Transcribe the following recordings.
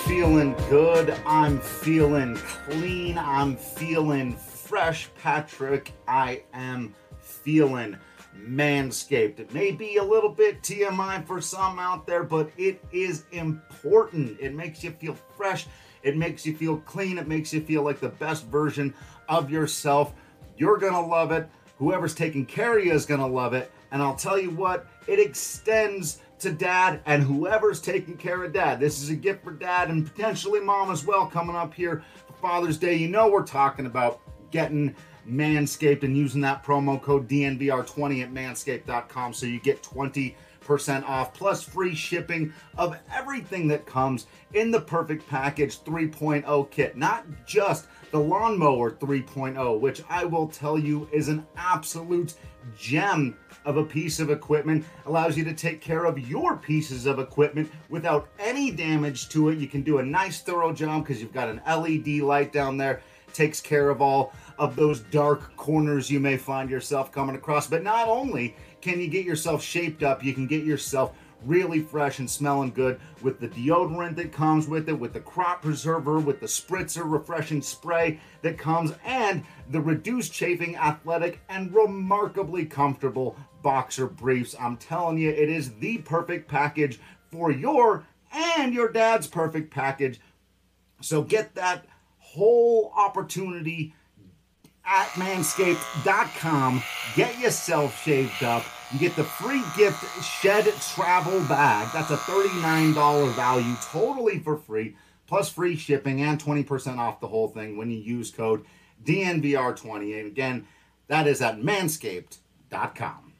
feeling good. I'm feeling clean. I'm feeling fresh, Patrick. I am feeling manscaped. It may be a little bit TMI for some out there, but it is important. It makes you feel fresh. It makes you feel clean. It makes you feel like the best version of yourself. You're going to love it. Whoever's taking care of you is going to love it. And I'll tell you what, it extends to dad and whoever's taking care of dad. This is a gift for dad and potentially mom as well coming up here for Father's Day. You know we're talking about getting Manscaped and using that promo code DNVR20 at manscaped.com so you get 20% off plus free shipping of everything that comes in the Perfect Package 3.0 kit. Not just the Lawnmower 3.0, which I will tell you is an absolute gem of a piece of equipment. Allows you to take care of your pieces of equipment without any damage to it. You can do a nice thorough job because you've got an LED light down there. Takes care of all of those dark corners you may find yourself coming across. But not only can you get yourself shaped up, you can get yourself really fresh and smelling good with the deodorant that comes with it, with the crop preserver, with the spritzer refreshing spray that comes, and the reduced chafing, athletic, and remarkably comfortable boxer briefs. I'm telling you, it is the perfect package for your and your dad's perfect package. So get that whole opportunity at manscaped.com. Get yourself shaved up. You get the free gift Shed Travel Bag. That's a $39 value, totally for free, plus free shipping and 20% off the whole thing when you use code DNVR20. And again, that is at manscaped.com.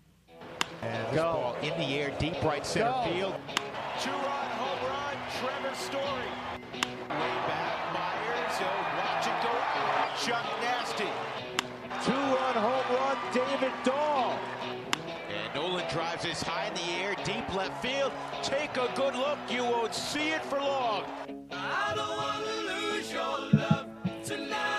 And this ball in the air, deep right center field. Two-run home run, Trevor Story. Way back, Myers, watch it go out. Chuck Nasty. Two-run home run, David Dahl. And Nolan drives this high in the air, deep left field. Take a good look, you won't see it for long. I don't want to lose your love tonight.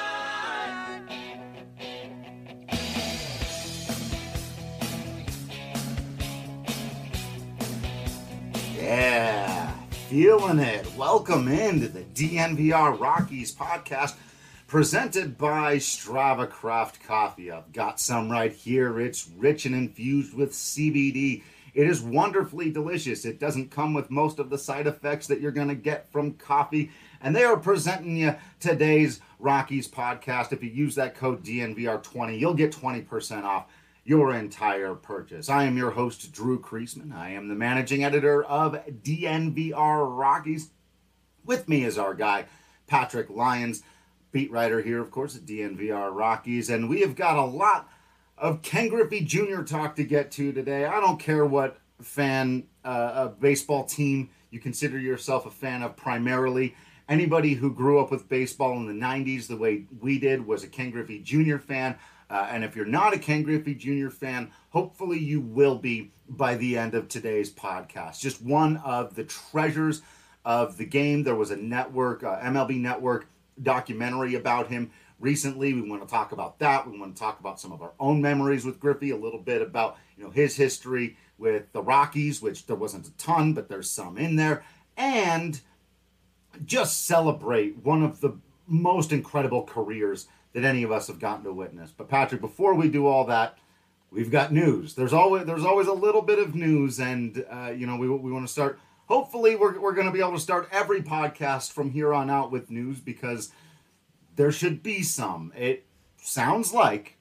Yeah, feeling it. Welcome into the DNVR Rockies podcast presented by Strava Craft Coffee. I've got some right here. It's rich and infused with CBD. It is wonderfully delicious. It doesn't come with most of the side effects that you're going to get from coffee. And they are presenting you today's Rockies podcast. If you use that code DNVR20, you'll get 20% off your entire purchase. I am your host, Drew Kreisman. I am the managing editor of DNVR Rockies. With me is our guy, Patrick Lyons, beat writer here, of course, at DNVR Rockies. And we have got a lot of Ken Griffey Jr. talk to get to today. I don't care what fan of baseball team you consider yourself a fan of primarily. Anybody who grew up with baseball in the 90s the way we did was a Ken Griffey Jr. fan. And if you're not a Ken Griffey Jr. fan, hopefully you will be by the end of today's podcast. Just one of the treasures of the game. There was a network, MLB Network documentary about him recently. We want to talk about that. We want to talk about some of our own memories with Griffey, a little bit about his history with the Rockies, which there wasn't a ton, but there's some in there, and just celebrate one of the most incredible careers that any of us have gotten to witness. But Patrick, before we do all that, we've got news. There's always a little bit of news, and we want to start. Hopefully, we're going to be able to start every podcast from here on out with news because there should be some. It sounds like,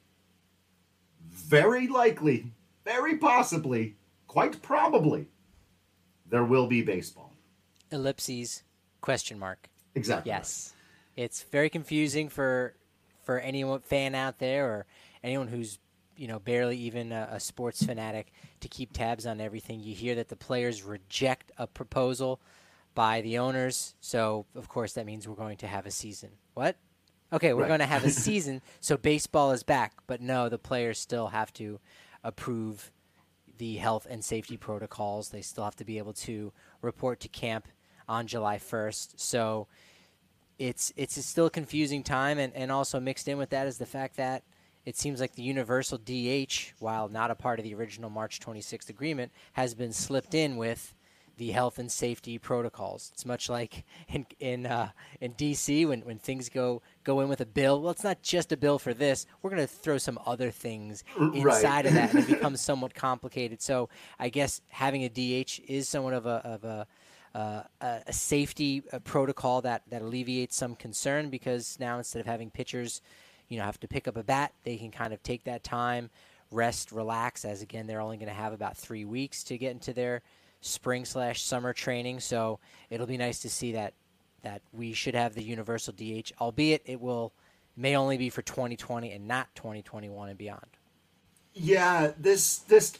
very likely, very possibly, quite probably, there will be baseball. Ellipses, question mark. Exactly. Yes. It's very confusing for anyone fan out there or anyone who's barely even a sports fanatic to keep tabs on everything. You hear that the players reject a proposal by the owners, so of course that means we're going to have a season. What? Okay, we're going to have a season, so baseball is back. But no, the players still have to approve the health and safety protocols. They still have to be able to report to camp on July 1st. So it's still a confusing time, and also mixed in with that is the fact that it seems like the universal DH, while not a part of the original March 26th agreement, has been slipped in with the health and safety protocols. It's much like in DC when things go in with a bill. Well, it's not just a bill for this. We're going to throw some other things inside of that, and it becomes somewhat complicated. So I guess having a DH is somewhat of a safety protocol that alleviates some concern, because now instead of having pitchers, have to pick up a bat, they can kind of take that time, rest, relax, as again they're only going to have about 3 weeks to get into their spring/summer training. So it'll be nice to see that we should have the universal DH, albeit it may only be for 2020 and not 2021 and beyond. Yeah, let's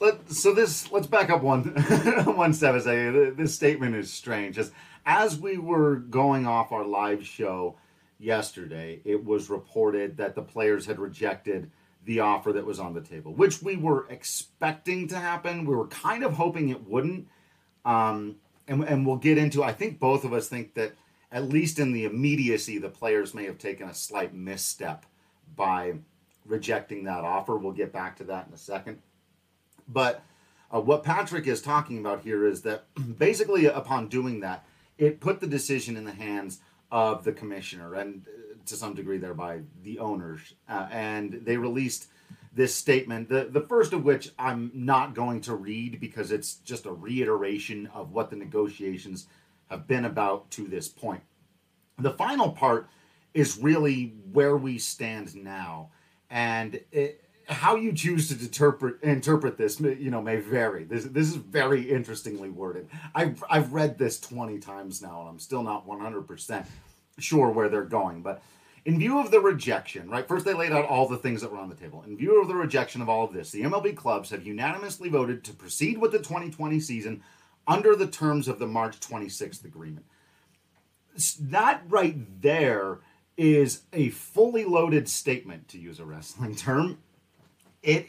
back up one step and say this statement is strange. As we were going off our live show yesterday, it was reported that the players had rejected the offer that was on the table, which we were expecting to happen. We were kind of hoping it wouldn't. And we'll get into, I think both of us think that at least in the immediacy, the players may have taken a slight misstep by rejecting that offer. We'll get back to that in a second. But what Patrick is talking about here is that basically upon doing that, it put the decision in the hands of the commissioner and to some degree thereby the owners. And they released this statement, the first of which I'm not going to read because it's just a reiteration of what the negotiations have been about to this point. The final part is really where we stand now. And how you choose to interpret this, may vary. This is very interestingly worded. I've read this 20 times now, and I'm still not 100% sure where they're going. But in view of the rejection, right? First, they laid out all the things that were on the table. In view of the rejection of all of this, the MLB clubs have unanimously voted to proceed with the 2020 season under the terms of the March 26th agreement. That right there is a fully loaded statement, to use a wrestling term. It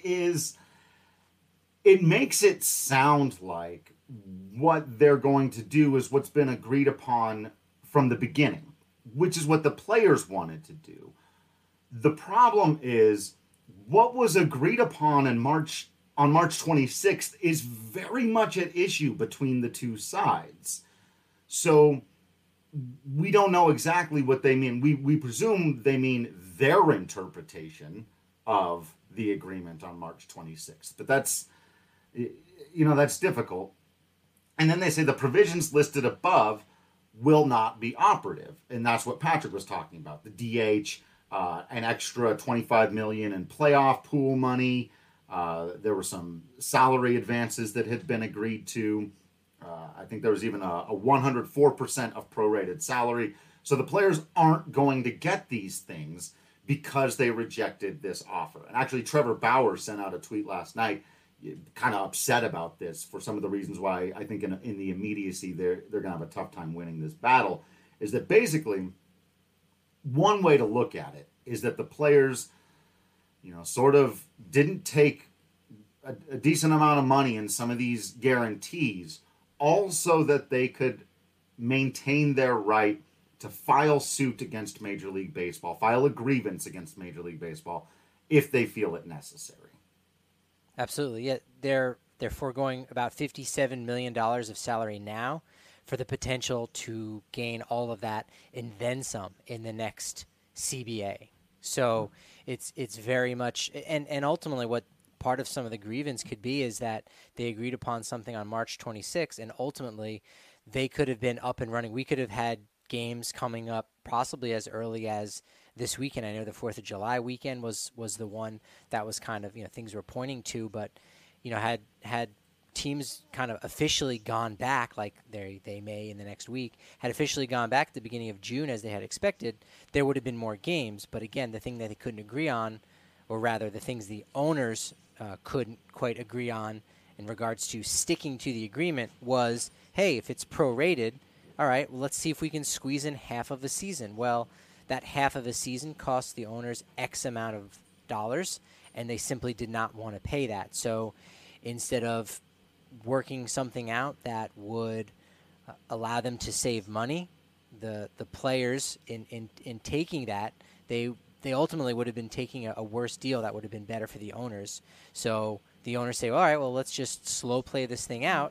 makes it sound like what they're going to do is what's been agreed upon from the beginning, which is what the players wanted to do. The problem is what was agreed upon on March 26th is very much at issue between the two sides. So we don't know exactly what they mean. We presume they mean their interpretation of the agreement on March 26th. But that's difficult. And then they say the provisions listed above will not be operative. And that's what Patrick was talking about. The DH, an extra $25 million in playoff pool money. There were some salary advances that had been agreed to. I think there was even a 104% of prorated salary. So the players aren't going to get these things because they rejected this offer. And actually, Trevor Bauer sent out a tweet last night kind of upset about this for some of the reasons why I think in the immediacy they're going to have a tough time winning this battle, is that basically one way to look at it is that the players, sort of didn't take a decent amount of money in some of these guarantees, also that they could maintain their right to file suit against Major League Baseball, file a grievance against Major League Baseball if they feel it necessary. Absolutely. Yeah, they're foregoing about $57 million of salary now for the potential to gain all of that and then some in the next CBA. So it's very much, and ultimately what part of some of the grievance could be is that they agreed upon something on March 26th, and ultimately they could have been up and running. We could have had games coming up possibly as early as this weekend. I know the 4th of July weekend was the one that was kind of, things were pointing to, but, had teams kind of officially gone back, like they may in the next week, had officially gone back at the beginning of June as they had expected, there would have been more games. But again, the thing that they couldn't agree on, or rather the things the owners couldn't quite agree on in regards to sticking to the agreement was, hey, if it's prorated, all right, well, let's see if we can squeeze in half of a season. Well, that half of a season costs the owners X amount of dollars, and they simply did not want to pay that. So instead of working something out that would allow them to save money, the players in taking that, they ultimately would have been taking a worse deal that would have been better for the owners. So the owners say, all right, well, let's just slow play this thing out,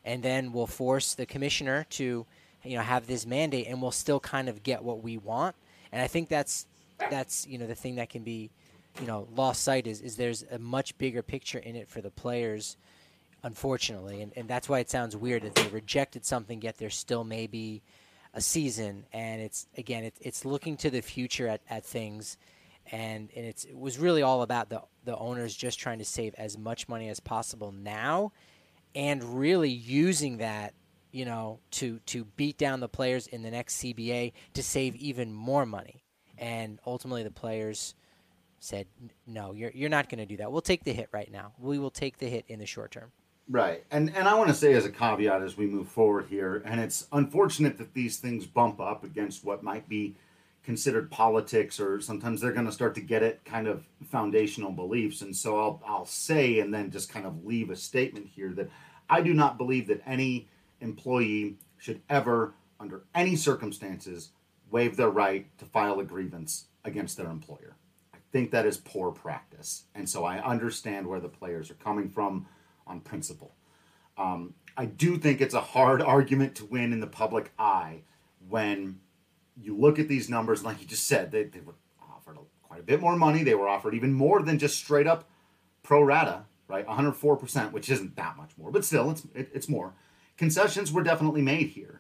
and then we'll force the commissioner to, have this mandate, and we'll still kind of get what we want. And I think that's the thing that can be, lost sight is there's a much bigger picture in it for the players, unfortunately, and that's why it sounds weird that they rejected something, yet there still may be a season, and it's looking to the future at things, and it was really all about the owners just trying to save as much money as possible now, and really using that, to beat down the players in the next CBA to save even more money. And ultimately the players said, no, you're not going to do that. We'll take the hit right now. We will take the hit in the short term. Right. And I want to say as a caveat as we move forward here, and it's unfortunate that these things bump up against what might be considered politics, or sometimes they're going to start to get at kind of foundational beliefs. And so I'll say, and then just kind of leave a statement here, that I do not believe that any employee should ever, under any circumstances, waive their right to file a grievance against their employer. I think that is poor practice. And so I understand where the players are coming from on principle. I do think it's a hard argument to win in the public eye when you look at these numbers. Like you just said, they were offered quite a bit more money. They were offered even more than just straight up pro rata, right? 104%, which isn't that much more, but still it's more. Concessions were definitely made here.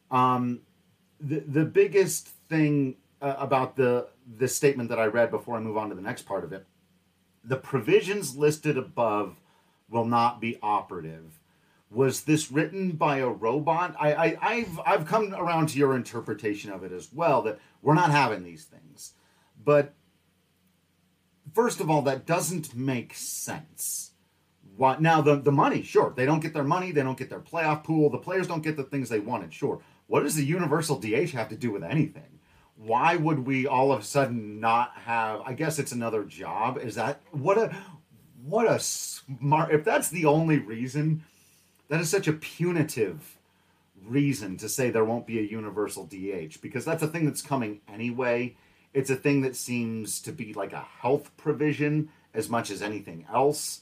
The biggest thing about this statement that I read before I move on to the next part of it, the provisions listed above will not be operative. Was this written by a robot? I've come around to your interpretation of it as well, that we're not having these things. But first of all, that doesn't make sense. What now? The money, sure. They don't get their money. They don't get their playoff pool. The players don't get the things they wanted, sure. What does the universal DH have to do with anything? Why would we all of a sudden not have? I guess it's another job. Is that what a smart? If that's the only reason, that is such a punitive reason to say there won't be a universal DH, because that's a thing that's coming anyway. It's a thing that seems to be like a health provision as much as anything else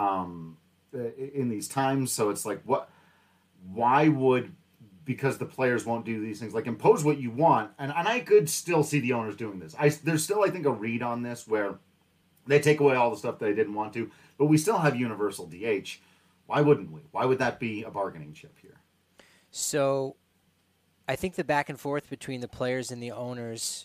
in these times. So it's like, why would, because the players won't do these things, like impose what you want. And I could still see the owners doing this. There's still, I think, a read on this where they take away all the stuff they didn't want to, but we still have universal DH. Why wouldn't we? Why would that be a bargaining chip here? So I think the back and forth between the players and the owners,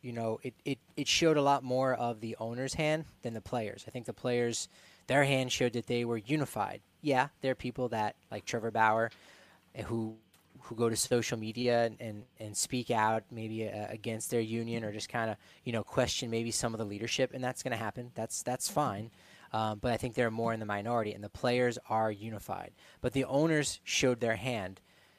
it showed a lot more of the owner's hand than the players. I think the players, their hand showed that they were unified. Yeah, there are people that, like Trevor Bauer, who go to social media and speak out maybe against their union, or just kind of, question maybe some of the leadership, and that's going to happen. That's fine. But I think they're more in the minority, and the players are unified. But the owners showed their hand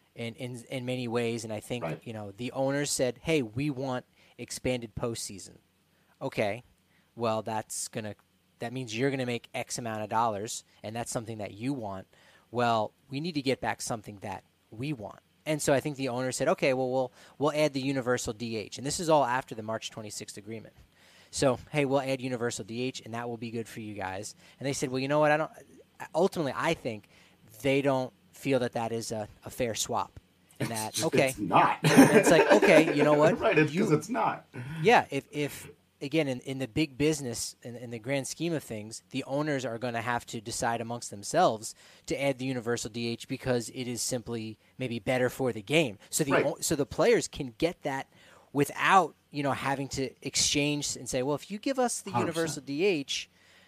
in many ways, and I think, right, the owners said, hey, we want expanded postseason. Okay, well, that means you're going to make X amount of dollars, and that's something that you want. Well, we need to get back something that we want. And so I think the owner said, okay, well, we'll add the universal DH. And this is all after the March 26th agreement. So, hey, we'll add universal DH, and that will be good for you guys. And they said, well, you know what? Ultimately, I think they don't feel that is a fair swap. And that, okay. It's not. It's like, okay, you know what? Right, because it's not. Yeah, if again, in the big business, in the grand scheme of things, the owners are going to have to decide amongst themselves to add the universal DH because it is simply maybe better for the game. So the players can get that without, having to exchange and say, well, if you give us the 100%. Universal DH,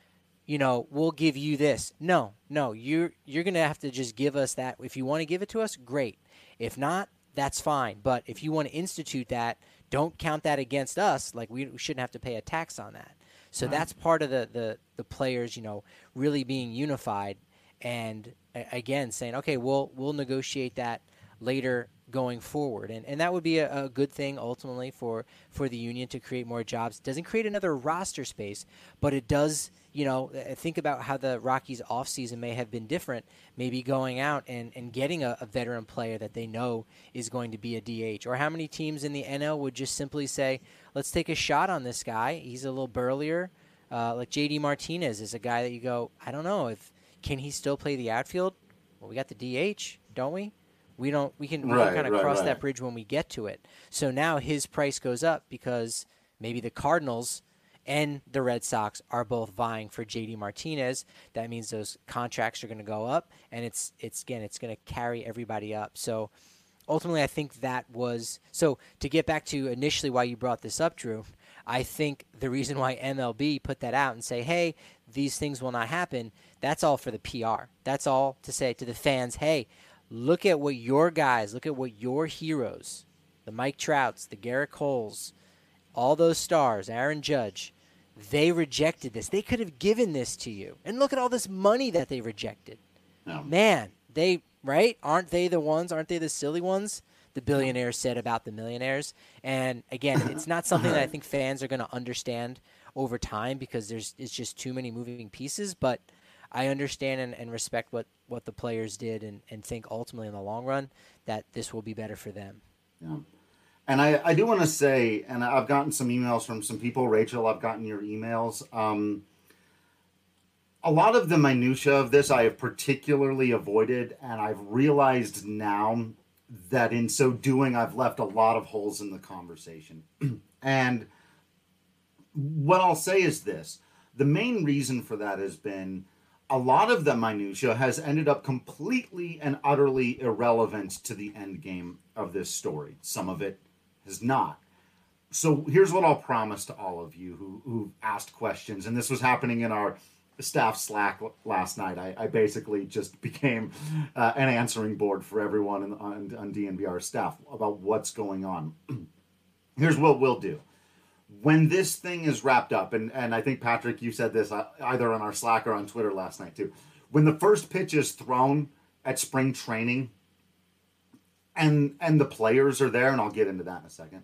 we'll give you this. No, you're going to have to just give us that. If you want to give it to us, great. If not, that's fine. But if you want to institute that, don't count that against us. Like we shouldn't have to pay a tax on that. So that's part of the players, really being unified, and again saying, okay, we'll negotiate that later going forward, and that would be a good thing ultimately for the union to create more jobs. It doesn't create another roster space, but it does. Think about how the Rockies offseason may have been different, maybe going out and getting a veteran player that they know is going to be a DH. Or how many teams in the NL would just simply say, let's take a shot on this guy. He's a little burlier. Like J.D. Martinez is a guy that you go, I don't know, can he still play the outfield? Well, we got the DH. don't we? We can Right, kind of right, cross right. that bridge when we get to it. So now his price goes up because maybe the Cardinals and the Red Sox are both vying for JD Martinez. That means those contracts are going to go up, and it's going to carry everybody up. So ultimately, I think that was so. To get back to initially why you brought this up, Drew, I think the reason why MLB put that out and say, "Hey, these things will not happen," that's all for the PR. That's all to say to the fans, "Hey, look at what your guys, look at what your heroes, the Mike Trouts, the Garrett Coles, all those stars, Aaron Judge, they rejected this. They could have given this to you. And look at all this money that they rejected. Yeah. Man, right? Aren't they the ones? Aren't they the silly ones?" The billionaires said about the millionaires. And again, it's not something that I think fans are going to understand over time because it's just too many moving pieces. But I understand and respect what the players did and think ultimately in the long run that this will be better for them. Yeah. And I do want to say, and I've gotten some emails from some people. Rachel, I've gotten your emails. A lot of the minutia of this I have particularly avoided, and I've realized now that in so doing, I've left a lot of holes in the conversation. And what I'll say is this. The main reason for that has been a lot of the minutia has ended up completely and utterly irrelevant to the end game of this story. Some of it has not. So here's what I'll promise to all of you who asked questions, and this was happening in our staff Slack last night. I basically just became an answering board for everyone on DNVR staff about what's going on. Here's what we'll do. When this thing is wrapped up, and I think, Patrick, you said this either on our Slack or on Twitter last night too, when the first pitch is thrown at spring training and the players are there, and I'll get into that in a second,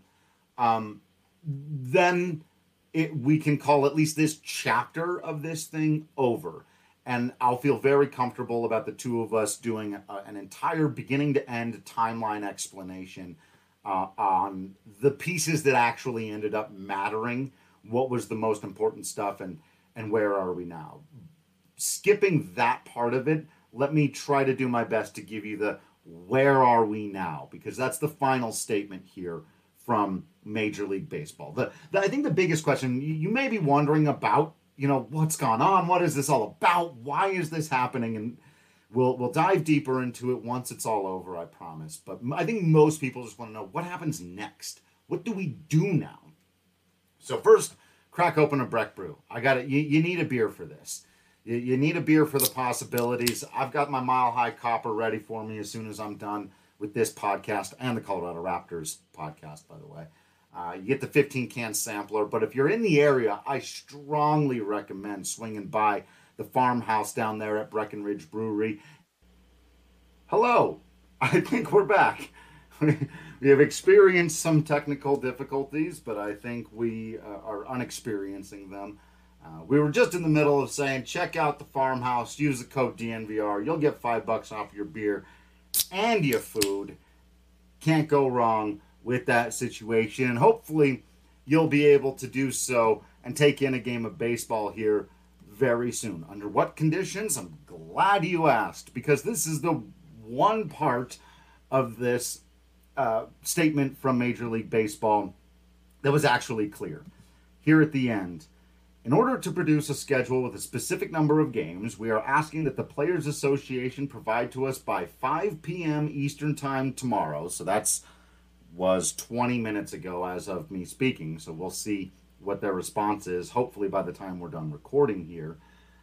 then we can call at least this chapter of this thing over. And I'll feel very comfortable about the two of us doing an entire beginning-to-end timeline explanation on the pieces that actually ended up mattering, what was the most important stuff, and where are we now. Skipping that part of it, let me try to do my best to give you the where are we now, because that's the final statement here from Major League Baseball. I think the biggest question you may be wondering about, what's gone on, what is this all about, why is this happening, and we'll dive deeper into it once it's all over, I promise. But I think most people just want to know what happens next. What do we do now? So first, crack open a Breck Brew. I got it. You need a beer for this. You need a beer for the possibilities. I've got my Mile High Copper ready for me as soon as I'm done with this podcast and the Colorado Raptors podcast, by the way. You get the 15-can sampler, but if you're in the area, I strongly recommend swinging by the farmhouse down there at Breckenridge Brewery. Hello, I think we're back. We have experienced some technical difficulties, but I think we are unexperiencing them. We were just in the middle of saying, check out the farmhouse, use the code DNVR. You'll get $5 off your beer and your food. Can't go wrong with that situation. And hopefully you'll be able to do so and take in a game of baseball here very soon. Under what conditions? I'm glad you asked, because this is the one part of this statement from Major League Baseball that was actually clear. Here at the end, in order to produce a schedule with a specific number of games, we are asking that the Players Association provide to us by 5 p.m. Eastern Time tomorrow. So was 20 minutes ago as of me speaking. So we'll see what their response is, hopefully by the time we're done recording here.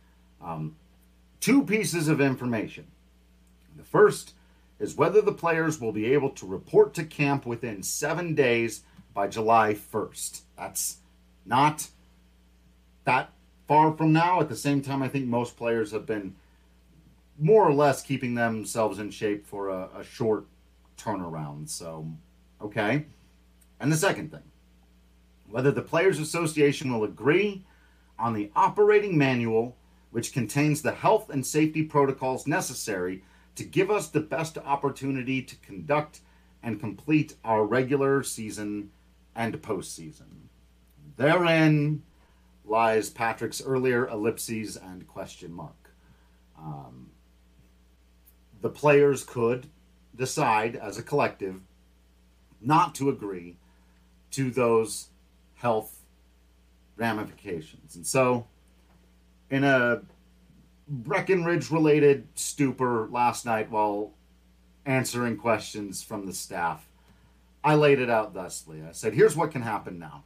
2 pieces of information. The first is whether the players will be able to report to camp within 7 days by July 1st. That's not that far from now. At the same time, I think most players have been more or less keeping themselves in shape for a short turnaround. So, okay. And the second thing, whether the Players Association will agree on the operating manual, which contains the health and safety protocols necessary to give us the best opportunity to conduct and complete our regular season and postseason. Therein lies Patrick's earlier ellipses and question mark. The players could decide as a collective not to agree to those health ramifications. And so, in a Breckenridge-related stupor last night while answering questions from the staff, I laid it out thusly. I said, here's what can happen now.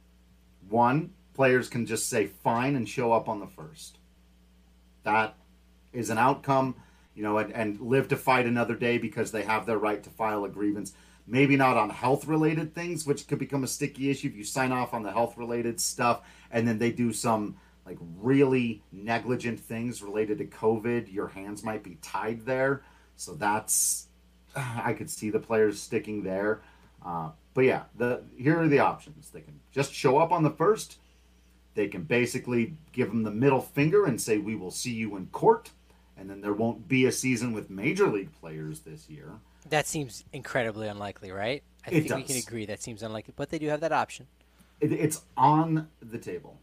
1, players can just say fine and show up on the 1st. That is an outcome, and live to fight another day because they have their right to file a grievance. Maybe not on health-related things, which could become a sticky issue if you sign off on the health-related stuff and then they do some really negligent things related to COVID. Your hands might be tied there. So I could see the players sticking there. But yeah, here are the options. They can just show up on the 1st. They can basically give them the middle finger and say, we will see you in court. And then there won't be a season with major league players this year. That seems incredibly unlikely, right? I think we can agree that seems unlikely, but they do have that option. It's on the table.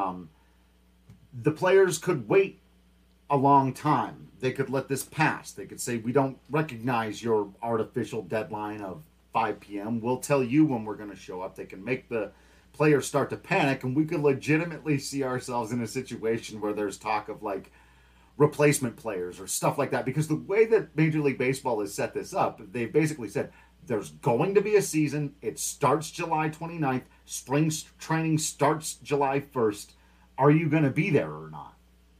The players could wait a long time. They could let this pass. They could say, we don't recognize your artificial deadline of 5 p.m. We'll tell you when we're going to show up. They can make the players start to panic, and we could legitimately see ourselves in a situation where there's talk of replacement players or stuff like that. Because the way that Major League Baseball has set this up, they've basically said there's going to be a season. It starts July 29th. Spring training starts July 1st. Are you going to be there or not?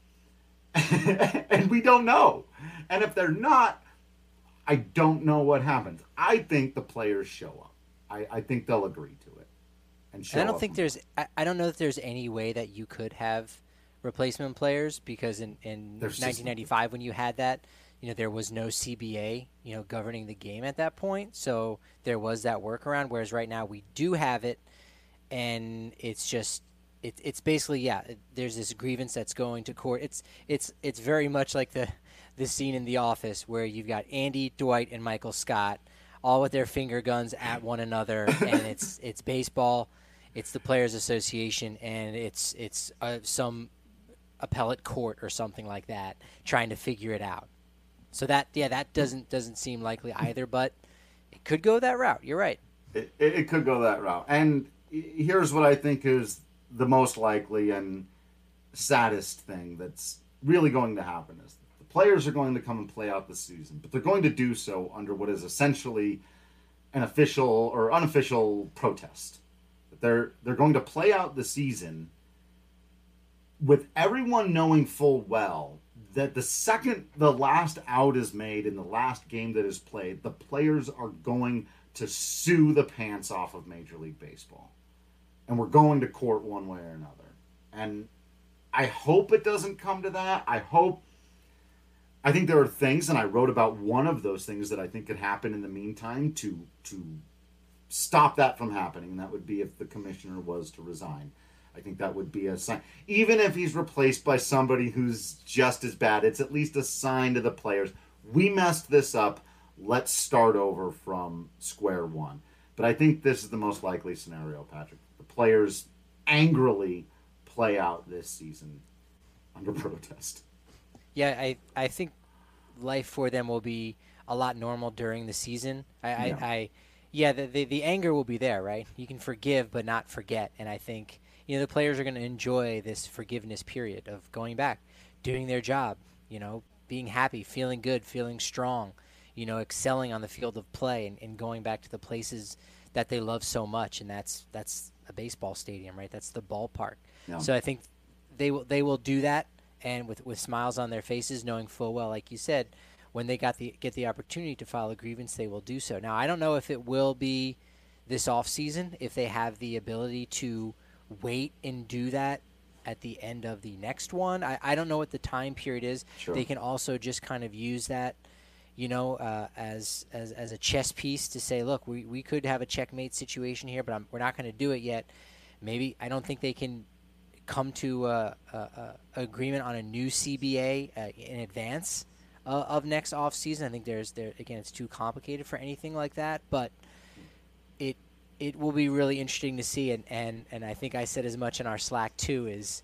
And we don't know. And if they're not, I don't know what happens. I think the players show up. I think they'll agree to it and show up. I don't know if there's any way that you could have replacement players, because in 1995 when you had that, there was no CBA, governing the game at that point. So there was that workaround, whereas right now we do have it, and it's just it's basically, there's this grievance that's going to court. It's very much like the scene in The Office where you've got Andy, Dwight, and Michael Scott all with their finger guns at one another, and it's baseball, it's the Players Association, and it's some appellate court or something like that trying to figure it out. So that doesn't seem likely either, but it could go that route. You're right. It could go that route. And here's what I think is the most likely and saddest thing that's really going to happen is the players are going to come and play out the season, but they're going to do so under what is essentially an official or unofficial protest. They're going to play out the season with everyone knowing full well that the second the last out is made in the last game that is played, the players are going to sue the pants off of Major League Baseball. And we're going to court one way or another. And I hope it doesn't come to that. I think there are things, and I wrote about one of those things that I think could happen in the meantime to stop that from happening. And that would be if the commissioner was to resign. I think that would be a sign. Even if he's replaced by somebody who's just as bad, it's at least a sign to the players. We messed this up. Let's start over from square one. But I think this is the most likely scenario, Patrick. The players angrily play out this season under protest. Yeah, I think life for them will be a lot normal during the season. The anger will be there, right? You can forgive but not forget. And I think the players are going to enjoy this forgiveness period of going back, doing their job, being happy, feeling good, feeling strong, excelling on the field of play and going back to the places that they love so much. And that's a baseball stadium, right? That's the ballpark. Yeah. So I think they will do that, and with smiles on their faces, knowing full well, like you said, when they get the opportunity to file a grievance, they will do so. Now, I don't know if it will be this off season, if they have the ability to wait and do that at the end of the next one. I don't know what the time period is. Sure. They can also just kind of use that, as a chess piece to say, look, we could have a checkmate situation here, but we're not going to do it yet. Maybe I don't think they can come to a agreement on a new CBA in advance of next off season. I think again, it's too complicated for anything like that, but it will be really interesting to see, and I think I said as much in our Slack too, is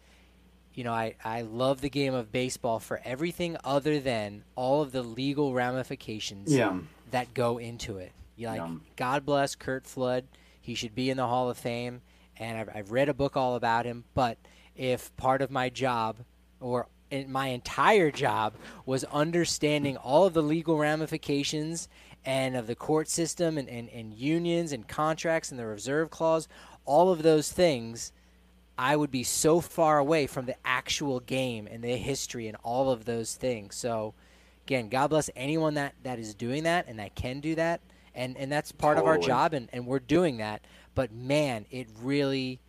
I love the game of baseball for everything other than all of the legal ramifications that go into it. Yeah. God bless Curt Flood. He should be in the Hall of Fame, and I've read a book all about him. But if part of my job, or my entire job, was understanding all of the legal ramifications and of the court system and unions and contracts and the reserve clause, all of those things, I would be so far away from the actual game and the history and all of those things. So, again, God bless anyone that is doing that and that can do that. And that's part of our job, and we're doing that. But, man, it really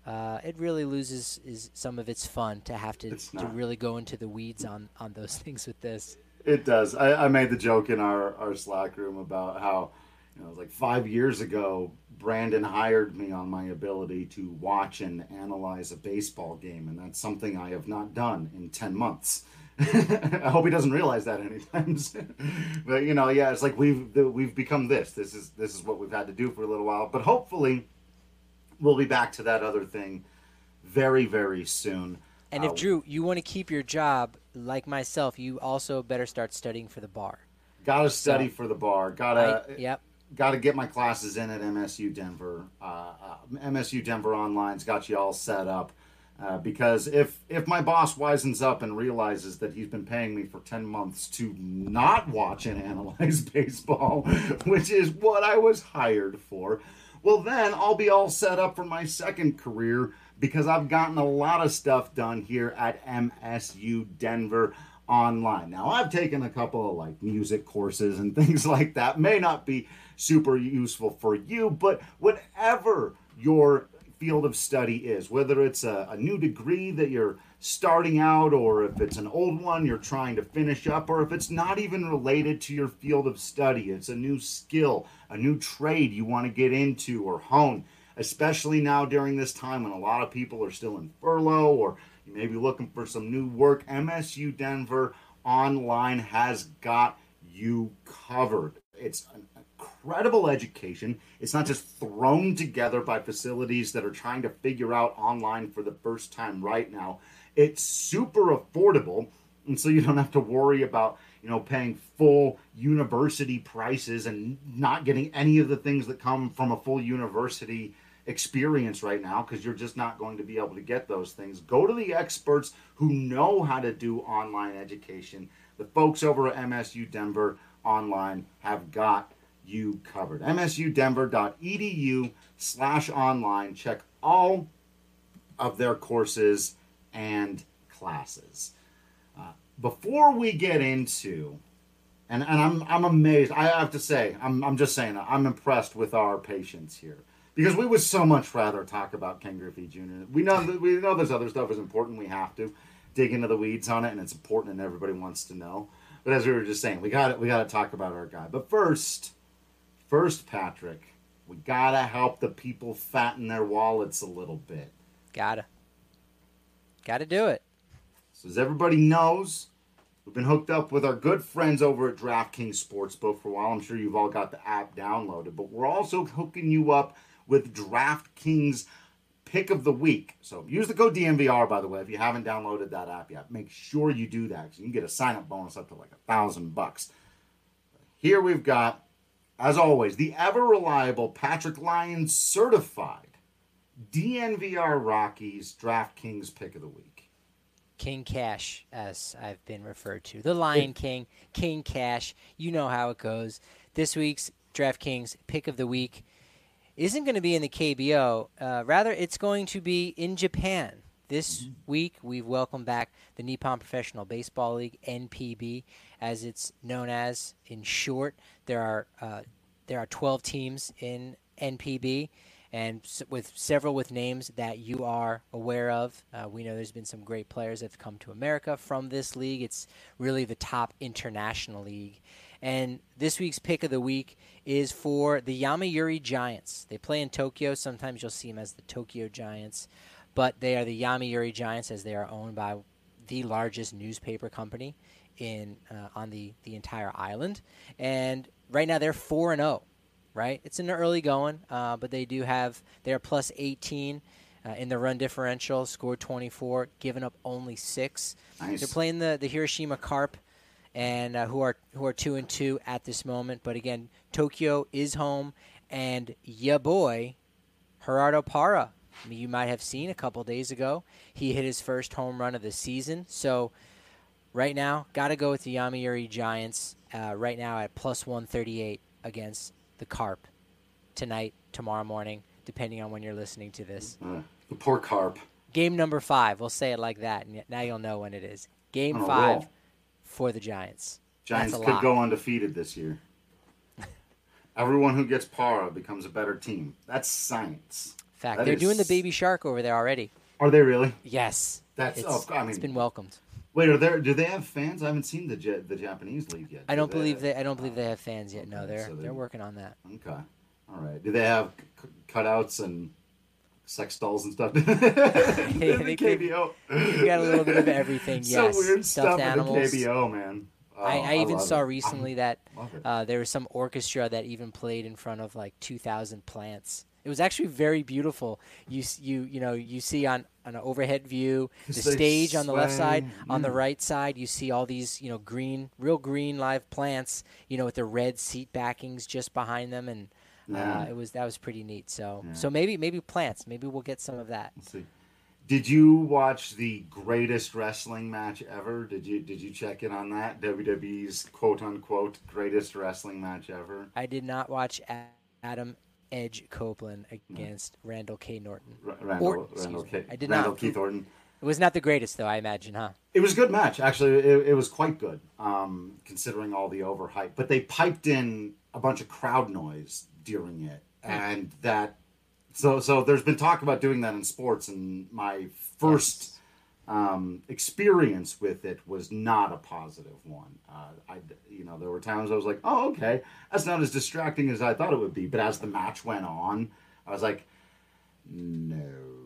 loses some of its fun to have to really go into the weeds on those things with this. It does. I made the joke in our Slack room about how, it was like 5 years ago, Brandon hired me on my ability to watch and analyze a baseball game, and that's something I have not done in 10 months. I hope he doesn't realize that anytime soon. But it's like we've become this. This is what we've had to do for a little while. But hopefully, we'll be back to that other thing very, very soon. And if Drew, you want to keep your job like myself, you also better start studying for the bar. Gotta study for the bar. Gotta get my classes in at MSU Denver. MSU Denver Online's got you all set up. Because if my boss wisens up and realizes that he's been paying me for 10 months to not watch and analyze baseball, which is what I was hired for, well, then I'll be all set up for my second career, because I've gotten a lot of stuff done here at MSU Denver Online. Now, I've taken a couple of music courses and things like that. May not be super useful for you, but whatever your field of study is, whether it's a new degree that you're starting out, or if it's an old one you're trying to finish up, or if it's not even related to your field of study, it's a new skill, a new trade you want to get into or hone, especially now during this time when a lot of people are still in furlough, or you may be looking for some new work. MSU Denver Online has got you covered. It's an incredible education. It's not just thrown together by facilities that are trying to figure out online for the first time right now. It's super affordable, and so you don't have to worry about paying full university prices and not getting any of the things that come from a full university experience right now, because you're just not going to be able to get those things. Go to the experts who know how to do online education. The folks over at MSU Denver Online have got you covered. msudenver.edu/online. Check all of their courses and classes. Before we get into, and I'm amazed. I have to say, I'm just saying, I'm impressed with our patience here, because we would so much rather talk about Ken Griffey Jr. We know this other stuff is important. We have to dig into the weeds on it, and it's important, and everybody wants to know. But as we were just saying, we got to talk about our guy. But first, Patrick, we gotta help the people fatten their wallets a little bit. Gotta do it. So as everybody knows, we've been hooked up with our good friends over at DraftKings Sportsbook for a while. I'm sure you've all got the app downloaded, but we're also hooking you up with DraftKings Pick of the Week. So use the code DNVR, by the way, if you haven't downloaded that app yet. Make sure you do that, because you can get a sign-up bonus up to $1,000. Here we've got, as always, the ever-reliable Patrick Lyons certified DNVR Rockies DraftKings Pick of the Week. King Cash, as I've been referred to. The Lion King, King Cash. You know how it goes. This week's DraftKings Pick of the Week isn't going to be in the KBO. Rather, it's going to be in Japan. This week, we've welcomed back the Nippon Professional Baseball League, NPB, as it's known as in short. There are 12 teams in NPB, and with several with names that you are aware of. We know there's been some great players that have come to America from this league. It's really the top international league. And this week's Pick of the Week is for the Yomiuri Giants. They play in Tokyo. Sometimes you'll see them as the Tokyo Giants, but they are the Yomiuri Giants, as they are owned by the largest newspaper company on the entire island. And right now they're 4-0. Right, it's in the early going, but they are plus 18 in the run differential, scored 24, given up only 6. Nice. They're playing the Hiroshima Carp, and who are 2-2 at this moment. But again, Tokyo is home, and ya boy, Gerardo Parra. You might have seen a couple days ago, he hit his first home run of the season. So right now, got to go with the Yomiuri Giants right now at plus 138 against the Carp tonight, tomorrow morning, depending on when you're listening to this. The poor Carp. Game number 5, we'll say it like that, and now you'll know when it is. Game 5 roll. for the Giants. Giants could go undefeated this year. Everyone who gets Parra becomes a better team. That's science. Fact. They're doing the Baby Shark over there already. Are they really? Yes. It's been welcomed. Wait, do they have fans? I haven't seen the Japanese league yet. I don't believe they have fans yet. No, they're working on that. Okay. All right. Do they have cutouts and sex dolls and stuff? They KBO. You got a little bit of everything. Yes. So weird Stuffed stuff animals. in the KBO, man. I even saw recently that it. there was some orchestra that even played in front of like 2,000 plants. It was actually very beautiful. You see on an overhead view the stage on the left side, on the right side you see all these real green live plants, with the red seat backings just behind them, and that was pretty neat. So maybe plants. Maybe we'll get some of that. Let's see. Did you watch the greatest wrestling match ever? Did you check in on that? WWE's quote unquote greatest wrestling match ever? I did not watch Adam Edge Copeland against Randall K. Norton. Randall Keith Orton. It was not the greatest, though, I imagine, huh? It was a good match. Actually, it was quite good, considering all the overhype. But they piped in a bunch of crowd noise during it, and that. So there's been talk about doing that in sports, and my first experience with it was not a positive one. There were times I was like, oh, okay, that's not as distracting as I thought it would be. But as the match went on, I was like, no.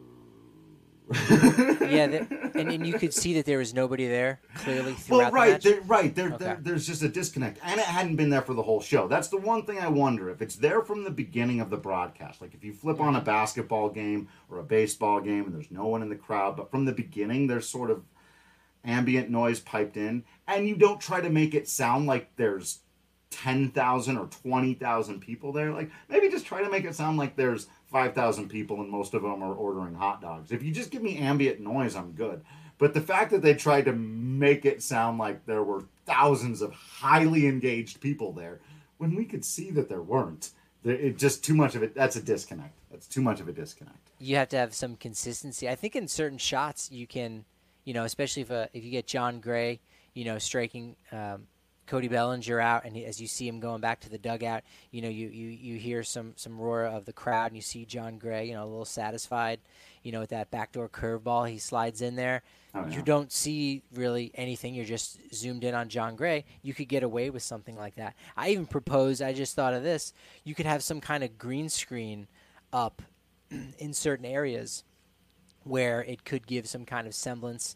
and you could see that there was nobody there clearly throughout the match. There's just a disconnect, and it hadn't been there for the whole show. That's the one thing I wonder if it's there from the beginning of the broadcast. Like if you flip on a basketball game or a baseball game and there's no one in the crowd, but from the beginning there's sort of ambient noise piped in, and you don't try to make it sound like there's 10,000 or 20,000 people there. Like maybe just try to make it sound like there's 5,000 people and most of them are ordering hot dogs. If you just give me ambient noise, I'm good. But the fact that they tried to make it sound like there were thousands of highly engaged people there, when we could see that there weren't, it just too much of it. That's a disconnect. That's too much of a disconnect. You have to have some consistency. I think in certain shots you can, especially if you get John Gray, striking Cody Bellinger out, and as you see him going back to the dugout, you hear some roar of the crowd, and you see John Gray, a little satisfied, with that backdoor curveball he slides in there. Oh, yeah. You don't see really anything. You're just zoomed in on John Gray. You could get away with something like that. I even proposed, I just thought of this, you could have some kind of green screen up in certain areas where it could give some kind of semblance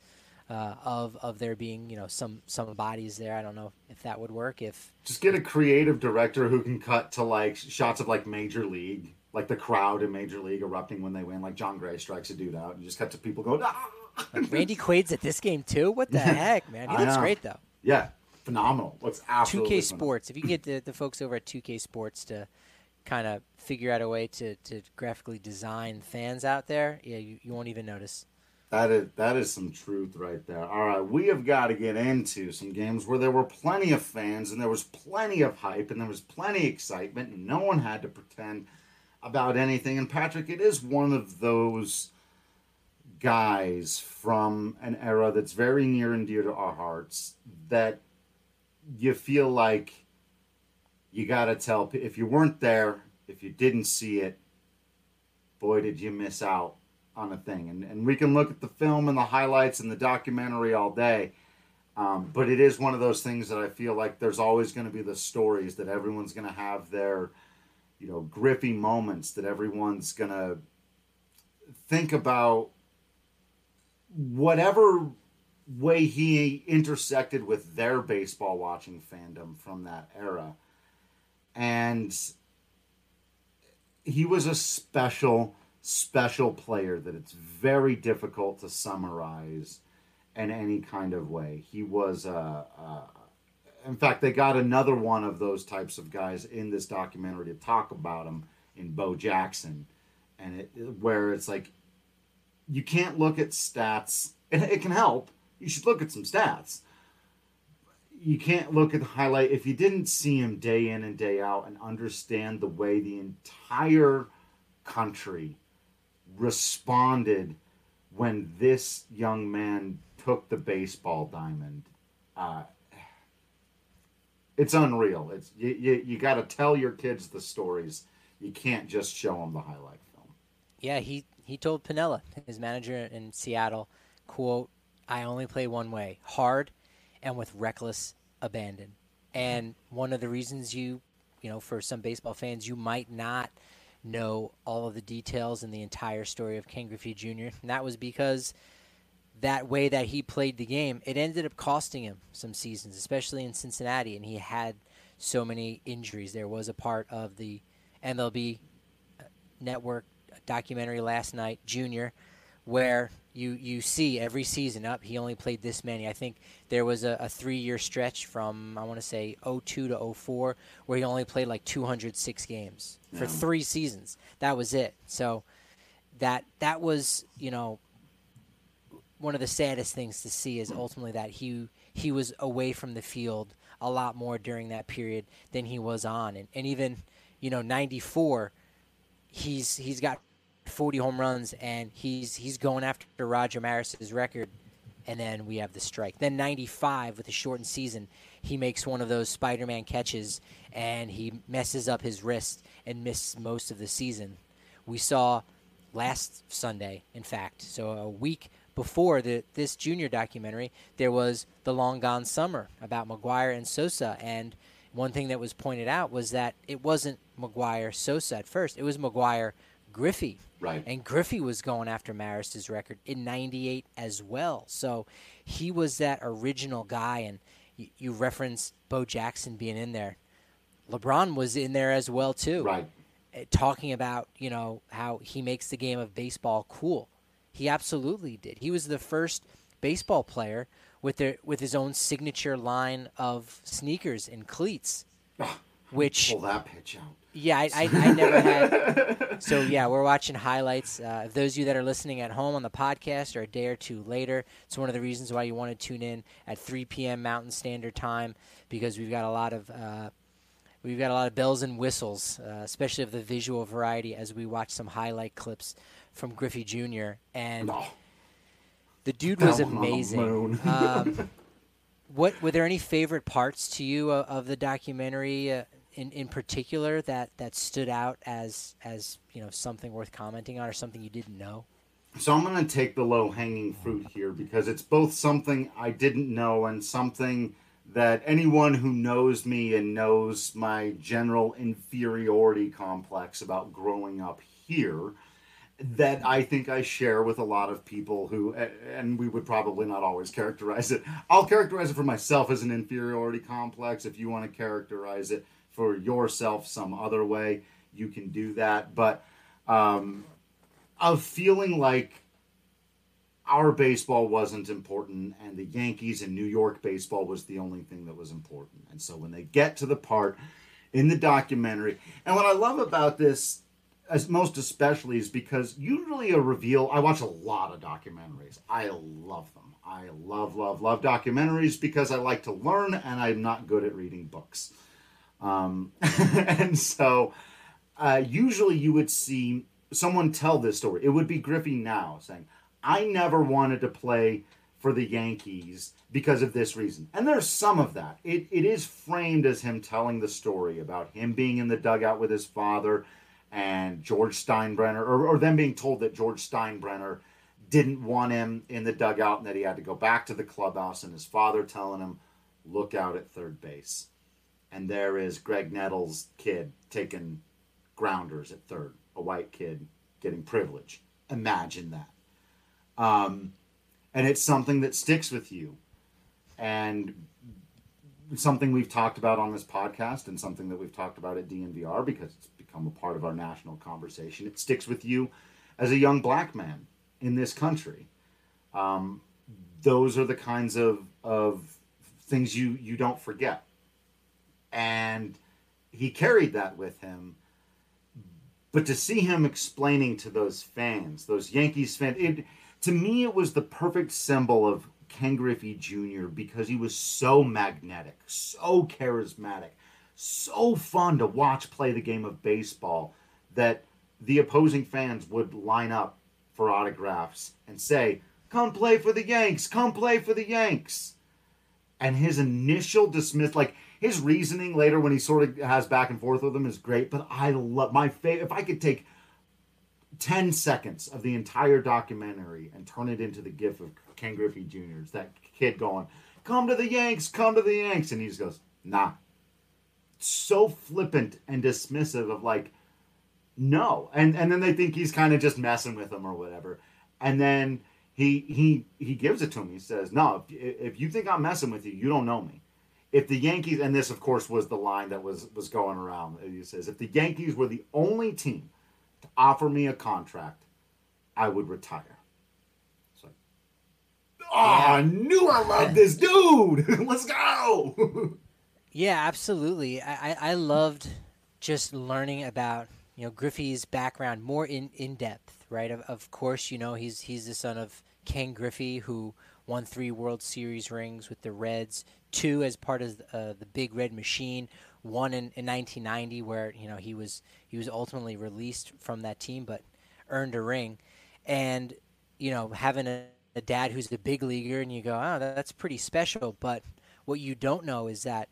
of there being, some bodies there. I don't know if that would work. If just get a creative director who can cut to like shots of like Major League, like the crowd in Major League erupting when they win, like John Gray strikes a dude out, and you just cut to people going, ah! Like Randy Quaid's at this game too. What the heck, man? He looks great though. Yeah, phenomenal. Looks absolutely 2K Sports. If you can get the folks over at 2K Sports to kind of figure out a way to graphically design fans out there, yeah, you won't even notice. That is some truth right there. All right, we have got to get into some games where there were plenty of fans and there was plenty of hype and there was plenty of excitement and no one had to pretend about anything. And Patrick, it is one of those guys from an era that's very near and dear to our hearts that you feel like you got to tell, if you weren't there, if you didn't see it, boy, did you miss out on a thing. And we can look at the film and the highlights and the documentary all day, but it is one of those things that I feel like there's always going to be the stories that everyone's going to have their, griffy moments, that everyone's going to think about whatever way he intersected with their baseball watching fandom from that era. And he was a special player that it's very difficult to summarize in any kind of way. He was In fact, they got another one of those types of guys in this documentary to talk about him in Bo Jackson, and where it's like you can't look at stats. It can help. You should look at some stats. You can't look at the highlight if you didn't see him day in and day out and understand the way the entire country responded when this young man took the baseball diamond. It's unreal. It's you got to tell your kids the stories. You can't just show them the highlight film. Yeah, he told Piniella, his manager in Seattle, quote, "I only play one way, hard and with reckless abandon." And one of the reasons you know, for some baseball fans, you might not know all of the details and the entire story of Ken Griffey Jr., and that was because that way that he played the game, it ended up costing him some seasons, especially in Cincinnati, and he had so many injuries. There was a part of the MLB Network documentary last night, Junior, where you see every season he only played this many. I think there was a 3-year stretch from, I want to say, 02 to 04, where he only played like 206 games for 3 seasons. That was it. So that was, you know, one of the saddest things to see is ultimately that he was away from the field a lot more during that period than he was on. And even, you know, 94, he's got 40 home runs, and he's going after Roger Maris's record, and then we have the strike. Then 95, with a shortened season, he makes one of those Spider-Man catches, and he messes up his wrist and misses most of the season. We saw last Sunday, in fact, so a week before this Junior documentary, there was The Long Gone Summer about McGwire and Sosa, and one thing that was pointed out was that it wasn't McGwire-Sosa at first. It was McGwire-Griffey. Right. And Griffey was going after Maris's record in 98 as well. So he was that original guy, and you referenced Bo Jackson being in there. LeBron was in there as well, too. Right. Talking about, you know, how he makes the game of baseball cool. He absolutely did. He was the first baseball player with his own signature line of sneakers and cleats, which pull that pitch out. Yeah, I never had. So yeah, we're watching highlights. Those of you that are listening at home on the podcast or a day or two later, it's one of the reasons why you want to tune in at 3 p.m. Mountain Standard Time, because we've got a lot of bells and whistles, especially of the visual variety, as we watch some highlight clips from Griffey Jr. And the dude was amazing. What were there any favorite parts to you of the documentary in particular that stood out as you know, something worth commenting on or something you didn't know? So I'm going to take the low-hanging fruit here, because it's both something I didn't know and something that anyone who knows me and knows my general inferiority complex about growing up here, that I think I share with a lot of people who, and we would probably not always characterize it. I'll characterize it for myself as an inferiority complex. If you want to characterize it for yourself some other way, you can do that. But of feeling like our baseball wasn't important and the Yankees and New York baseball was the only thing that was important. And so when they get to the part in the documentary, and what I love about this, as most especially, is because usually a reveal, I watch a lot of documentaries. I love them. I love documentaries because I like to learn, and I'm not good at reading books. And so usually you would see someone tell this story. It would be Griffey now saying, I never wanted to play for the Yankees because of this reason. And there's some of that. It is framed as him telling the story about him being in the dugout with his father and George Steinbrenner, or them being told that George Steinbrenner didn't want him in the dugout and that he had to go back to the clubhouse, and his father telling him, look out at third base. And there is Greg Nettles' kid taking grounders at third, a white kid getting privilege. Imagine that. And it's something that sticks with you. And something we've talked about on this podcast, and something that we've talked about at DNVR because it's become a part of our national conversation. It sticks with you as a young black man in this country. Those are the kinds of things you don't forget. And he carried that with him. But to see him explaining to those fans, those Yankees fans, to me it was the perfect symbol of Ken Griffey Jr. because he was so magnetic, so charismatic, so fun to watch play the game of baseball that the opposing fans would line up for autographs and say, "Come play for the Yanks, come play for the Yanks." And his initial his reasoning later when he sort of has back and forth with them is great, but I love if I could take 10 seconds of the entire documentary and turn it into the gif of Ken Griffey Jr., that kid going, "Come to the Yanks, come to the Yanks," and he just goes, "Nah." So flippant and dismissive of no. And then they think he's kind of just messing with them or whatever. And then he gives it to him. He says, "No, if you think I'm messing with you, you don't know me. If the Yankees," and this, of course, was the line that was going around. He says, "If the Yankees were the only team to offer me a contract, I would retire." It's like, I knew I loved this dude. Let's go. Yeah, absolutely. I loved just learning about Griffey's background more in depth, right? Of course, he's the son of Ken Griffey, who won 3 World Series rings with the Reds, 2 as part of the Big Red Machine, 1 in 1990 where he was ultimately released from that team but earned a ring. And having a dad who's a big leaguer, and you go, "Oh, that's pretty special." But what you don't know is that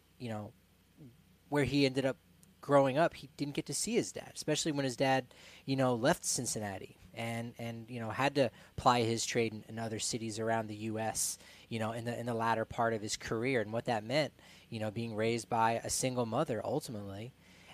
where he ended up growing up, he didn't get to see his dad, especially when his dad left Cincinnati and had to ply his trade in other cities around the U.S. In the latter part of his career, and what that meant, being raised by a single mother ultimately,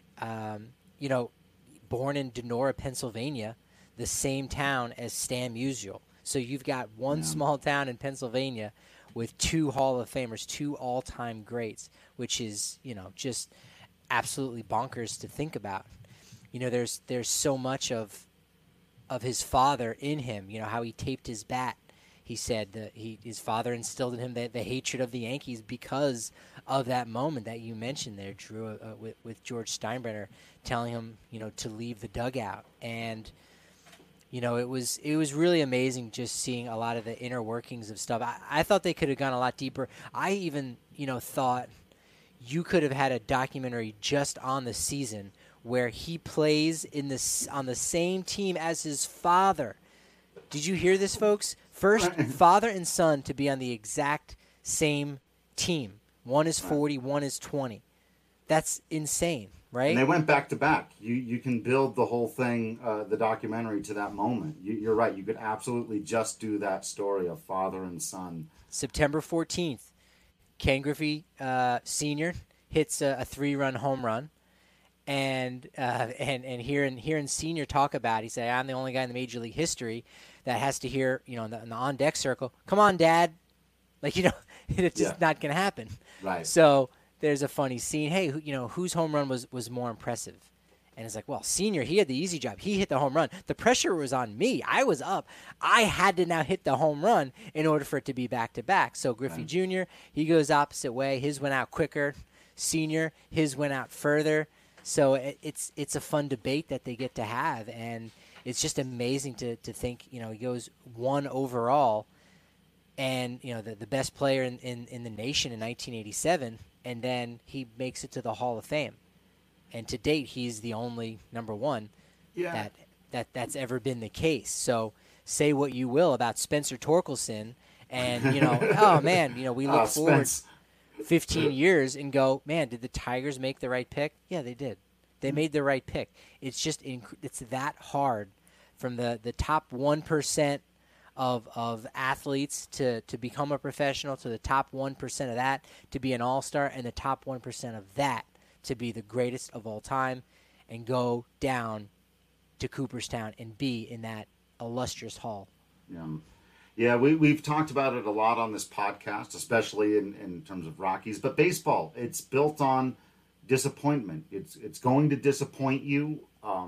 born in Donora, Pennsylvania, the same town as Stan Musial. So you've got one small town in Pennsylvania with 2 Hall of Famers, 2 all-time greats, which is, just absolutely bonkers to think about. There's so much of his father in him, how he taped his bat. He said that his father instilled in him the hatred of the Yankees because of that moment that you mentioned there, Drew, with George Steinbrenner telling him, to leave the dugout. And it was really amazing just seeing a lot of the inner workings of stuff. I thought they could have gone a lot deeper. I even, thought you could have had a documentary just on the season where he plays on the same team as his father. Did you hear this, folks? First father and son to be on the exact same team. One is 40, one is 20. That's insane, right? And they went back to back. You can build the whole thing, the documentary, to that moment. You're right. You could absolutely just do that story of father and son. September 14th, Ken Griffey Sr. hits a 3-run home run. And hearing Senior talk about it, he said, "I'm the only guy in the Major League history that has to hear, in the on-deck circle, 'Come on, Dad.'" It's just not going to happen. Right. So there's a funny scene. Hey, whose home run was more impressive? And it's like, well, Senior, he had the easy job. He hit the home run. The pressure was on me. I was up. I had to now hit the home run in order for it to be back-to-back. So Griffey Jr., he goes opposite way. His went out quicker. Senior, his went out further. So it's a fun debate that they get to have, and it's just amazing to think, he goes 1 overall, and, the best player in the nation in 1987, and then he makes it to the Hall of Fame. And to date, he's the only number 1 that's ever been the case. So say what you will about Spencer Torkelson, and, oh, man, we look forward 15 years and go, man, did the Tigers make the right pick? Yeah, they did. They made the right pick. It's just it's that hard from the top 1% of athletes to become a professional, to the top 1% of that to be an all-star, and the top 1% of that to be the greatest of all time and go down to Cooperstown and be in that illustrious hall. Yeah, we've talked about it a lot on this podcast, especially in terms of Rockies. But baseball, it's built on disappointment. It's going to disappoint you.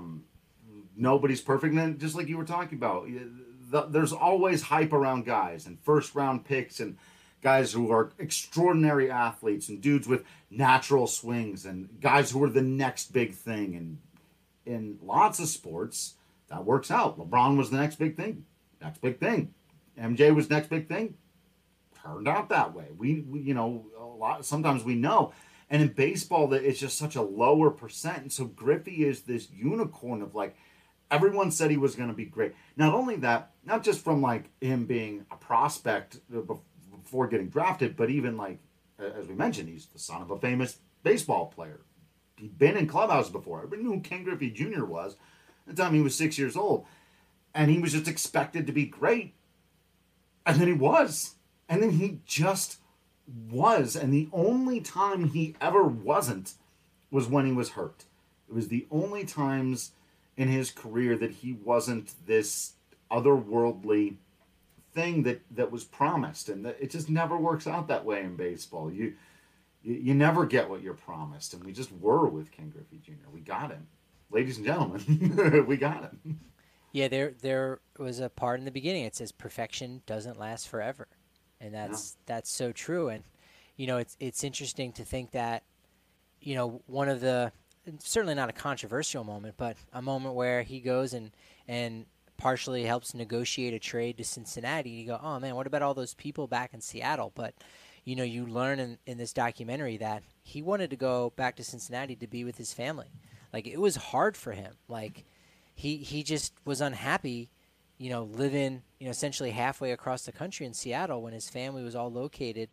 Nobody's perfect. And just like you were talking about, there's always hype around guys and first-round picks and guys who are extraordinary athletes and dudes with natural swings and guys who are the next big thing. And in lots of sports, that works out. LeBron was the next big thing. Next big thing. MJ was next big thing. Turned out that way. We sometimes we know. And in baseball, that it's just such a lower percent. And so Griffey is this unicorn of like, everyone said he was going to be great. Not only that, not just from like him being a prospect before getting drafted, but even like, as we mentioned, he's the son of a famous baseball player. He'd been in clubhouses before. Everybody knew who Ken Griffey Jr. was at the time he was 6 years old. And he was just expected to be great. And then he was. And then he just was. And the only time he ever wasn't was when he was hurt. It was the only times in his career that he wasn't this otherworldly thing that was promised. And that it just never works out that way in baseball. You never get what you're promised. And we just were with Ken Griffey Jr. We got him. Ladies and gentlemen, we got him. Yeah, there was a part in the beginning. It says perfection doesn't last forever. And that's so true. And, it's interesting to think that, one of the, certainly not a controversial moment, but a moment where he goes and partially helps negotiate a trade to Cincinnati. You go, oh, man, what about all those people back in Seattle? But, you learn in this documentary that he wanted to go back to Cincinnati to be with his family. Like, it was hard for him. Like, he just was unhappy, living, essentially halfway across the country in Seattle when his family was all located,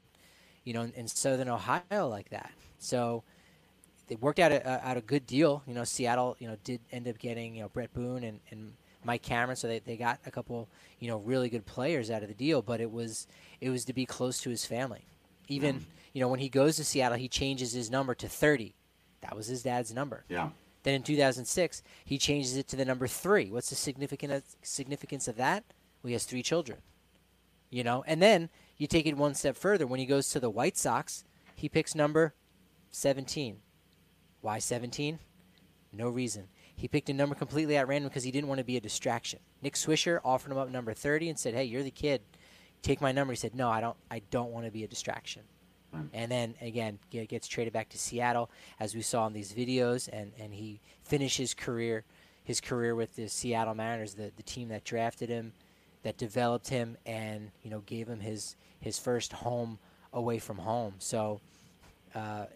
in southern Ohio like that. So they worked out a good deal. Seattle, did end up getting, Brett Boone and Mike Cameron, so they got a couple, really good players out of the deal. But it was to be close to his family. Even, when he goes to Seattle, he changes his number to 30. That was his dad's number. Yeah. Then in 2006, he changes it to the number 3. What's the significance of that? Well, he has 3 children. And then you take it one step further. When he goes to the White Sox, he picks number 17. Why 17? No reason. He picked a number completely at random because he didn't want to be a distraction. Nick Swisher offered him up number 30 and said, "Hey, you're the kid. Take my number." He said, "No, I don't want to be a distraction." And then, again, gets traded back to Seattle, as we saw in these videos, and he finished his career with the Seattle Mariners, the team that drafted him, that developed him, and, gave him his first home away from home. So, I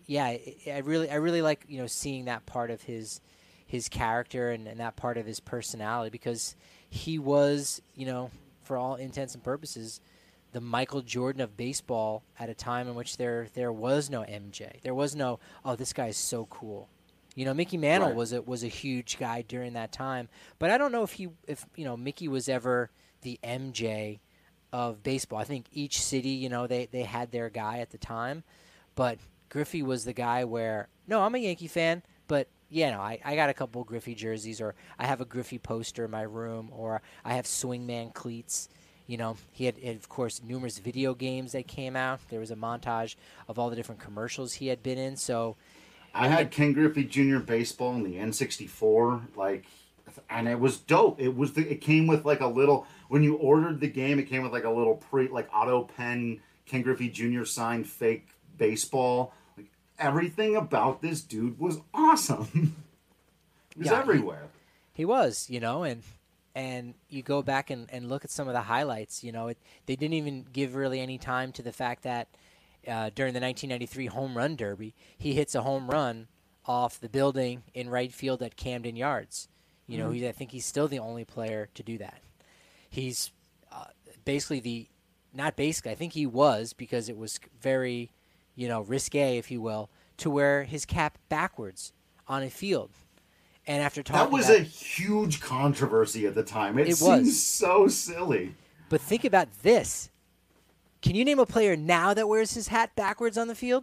really like, seeing that part of his character and that part of his personality, because he was, for all intents and purposes, the Michael Jordan of baseball at a time in which there was no MJ. There was no, oh, this guy is so cool. Mickey Mantle Right. was a huge guy during that time. But I don't know if Mickey was ever the MJ of baseball. I think each city, they had their guy at the time. But Griffey was the guy where, no, I'm a Yankee fan, but I got a couple Griffey jerseys, or I have a Griffey poster in my room, or I have Swingman cleats. He had, of course, numerous video games that came out. There was a montage of all the different commercials he had been in. So I had Ken Griffey Jr. baseball in the N64, and it was dope. It came with like a little, when you ordered the game, it came with like a little auto pen Ken Griffey Jr. signed fake baseball. Like, everything about this dude was awesome. He was everywhere. He was, and you go back and look at some of the highlights. They didn't even give really any time to the fact that during the 1993 Home Run Derby, he hits a home run off the building in right field at Camden Yards. I think he's still the only player to do that. He's I think he was, because it was very, risque, if you will, to wear his cap backwards on a field. And after talking, that was a huge controversy at the time. It seems so silly. But think about this. Can you name a player now that wears his hat backwards on the field?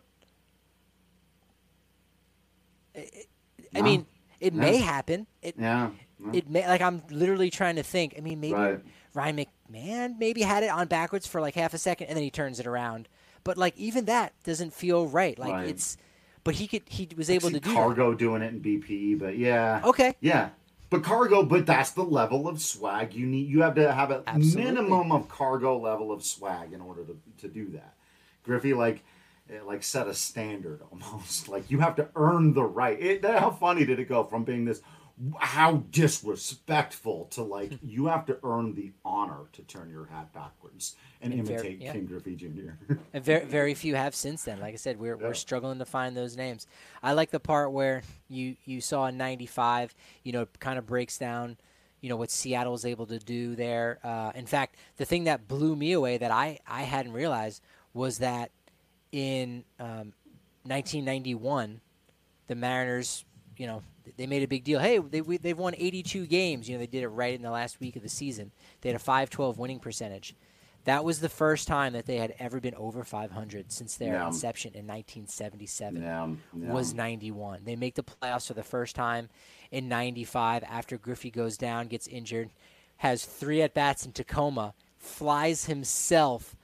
I mean, it may happen. It may. Like, I'm literally trying to think. I mean, maybe Ryan McMahon maybe had it on backwards for like half a second, and then he turns it around. But like, even that doesn't feel right. Like it's. But he was able to do Cargo doing it in BP, but yeah. Okay. Yeah. But that's the level of swag you need. You have to have a Absolutely. minimum of Cargo level of swag in order to do that. Griffey like set a standard almost. Like you have to earn the right. How funny did it go from being this how disrespectful to like you have to earn the honor to turn your hat backwards and imitate King Griffey Jr. And very few have since then. Like I said, we're struggling to find those names. I like the part where you saw in '95, kind of breaks down, what Seattle was able to do there. In fact, the thing that blew me away that I hadn't realized was that in 1991, the Mariners, they made a big deal. Hey, they've won 82 games. They did it right in the last week of the season. They had a .512 winning percentage. That was the first time that they had ever been over 500 since their inception in 1977. Was 91. They make the playoffs for the first time in 95 after Griffey goes down, gets injured, has 3 at-bats in Tacoma, flies himself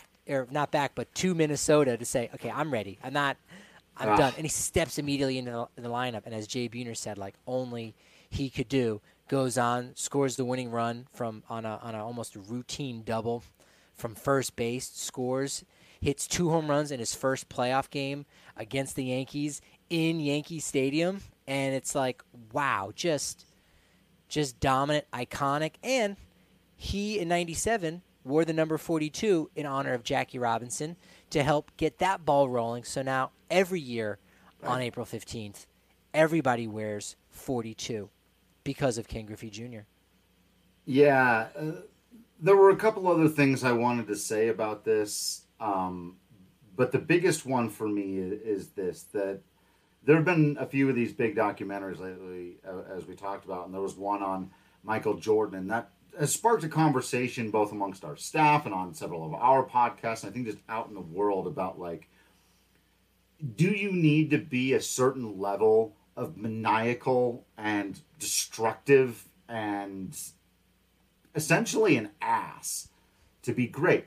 but to Minnesota to say, okay, I'm ready. I'm done. And he steps immediately into the lineup. And as Jay Buhner said, like only he could do, goes on, scores the winning run on a almost routine double from first base, scores, hits 2 home runs in his first playoff game against the Yankees in Yankee Stadium. And it's like, wow, just dominant, iconic. And he, in 97, wore the number 42 in honor of Jackie Robinson to help get that ball rolling. So now every year on April 15th, everybody wears 42 because of Ken Griffey Jr. Yeah, there were a couple other things I wanted to say about this, but the biggest one for me is this, that there have been a few of these big documentaries lately, as we talked about, and there was one on Michael Jordan, and that has sparked a conversation both amongst our staff and on several of our podcasts, and I think just out in the world about, like, do you need to be a certain level of maniacal and destructive and essentially an ass to be great?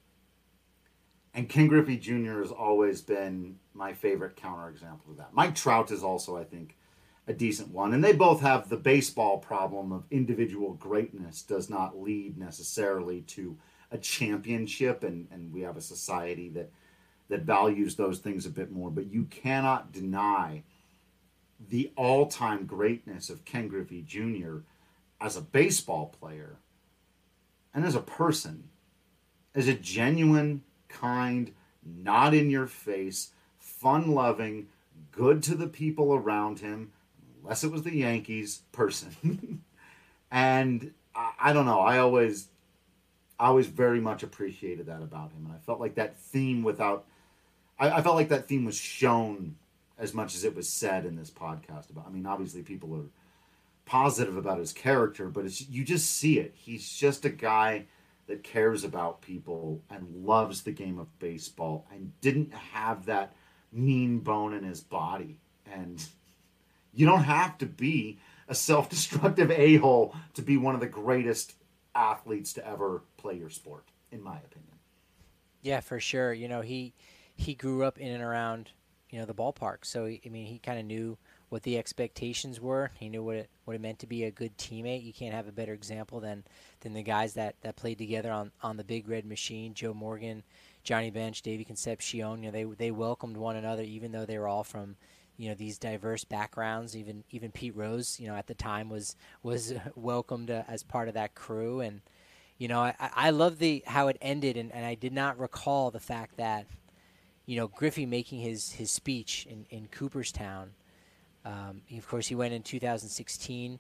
And Ken Griffey Jr. has always been my favorite counterexample of that. Mike Trout is also, I think, a decent one. And they both have the baseball problem of individual greatness does not lead necessarily to a championship. And we have a society that values those things a bit more. But you cannot deny the all-time greatness of Ken Griffey Jr. as a baseball player and as a person, as a genuine, kind, not in your face, fun-loving, good to the people around him, unless it was the Yankees, person. And I don't know, I always very much appreciated that about him. And I felt like that theme I felt like that theme was shown as much as it was said in this podcast about. I mean, obviously people are positive about his character, but you just see it. He's just a guy that cares about people and loves the game of baseball and didn't have that mean bone in his body. And you don't have to be a self-destructive a-hole to be one of the greatest athletes to ever play your sport, in my opinion. Yeah, for sure. He grew up in and around, the ballpark. So, he kind of knew what the expectations were. He knew what it meant to be a good teammate. You can't have a better example than the guys that played together on the Big Red Machine. Joe Morgan, Johnny Bench, Davey Concepcion. They welcomed one another, even though they were all from these diverse backgrounds. Even Pete Rose, at the time was welcomed as part of that crew. And I love how it ended, and I did not recall the fact that Griffey making his speech in Cooperstown. Of course, he went in 2016,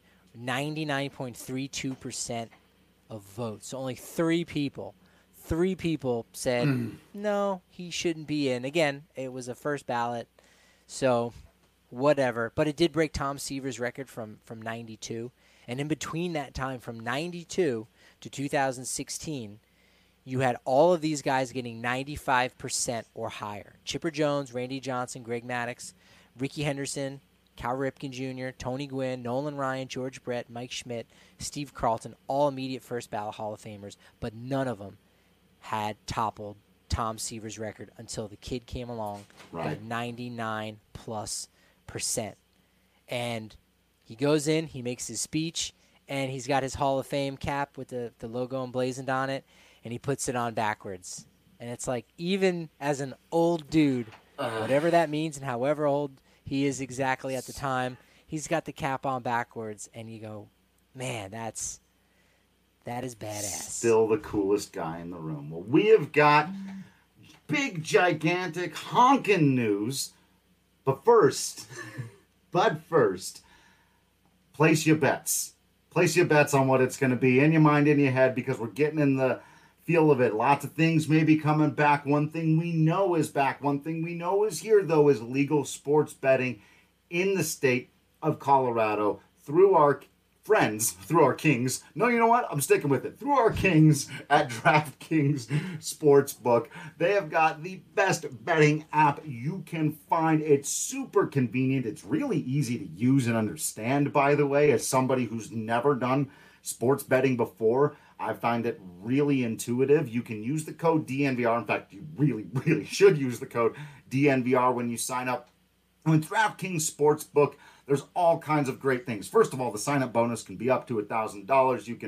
99.32% of votes. So only 3 people said, no, he shouldn't be in. Again, it was a first ballot, so whatever. But it did break Tom Seaver's record from 92. And in between that time, from 92 to 2016, you had all of these guys getting 95% or higher. Chipper Jones, Randy Johnson, Greg Maddux, Rickey Henderson, Cal Ripken Jr., Tony Gwynn, Nolan Ryan, George Brett, Mike Schmidt, Steve Carlton, all immediate first ballot Hall of Famers, but none of them had toppled Tom Seaver's record until the kid came along at 99+%. And He goes in, he makes his speech, and he's got his Hall of Fame cap with the logo emblazoned on it, and he puts it on backwards. And it's like, even as an old dude, whatever that means and however old he is exactly at the time, he's got the cap on backwards, and you go, man, that is badass. Still the coolest guy in the room. Well, we have got big, gigantic, honking news. But first, place your bets. Place your bets on what it's going to be in your mind, in your head, because we're getting in the feel of it. Lots of things may be coming back. One thing we know is back. One thing we know is here, though, is legal sports betting in the state of Colorado through our friends, through our kings. No, you know what? I'm sticking with it. Through our kings at DraftKings Sportsbook. They have got the best betting app you can find. It's super convenient. It's really easy to use and understand, by the way, as somebody who's never done sports betting before. I find it really intuitive. You can use the code DNVR. In fact, you really, really should use the code DNVR when you sign up. And with DraftKings Sportsbook, there's all kinds of great things. First of all, the sign-up bonus can be up to $1,000. You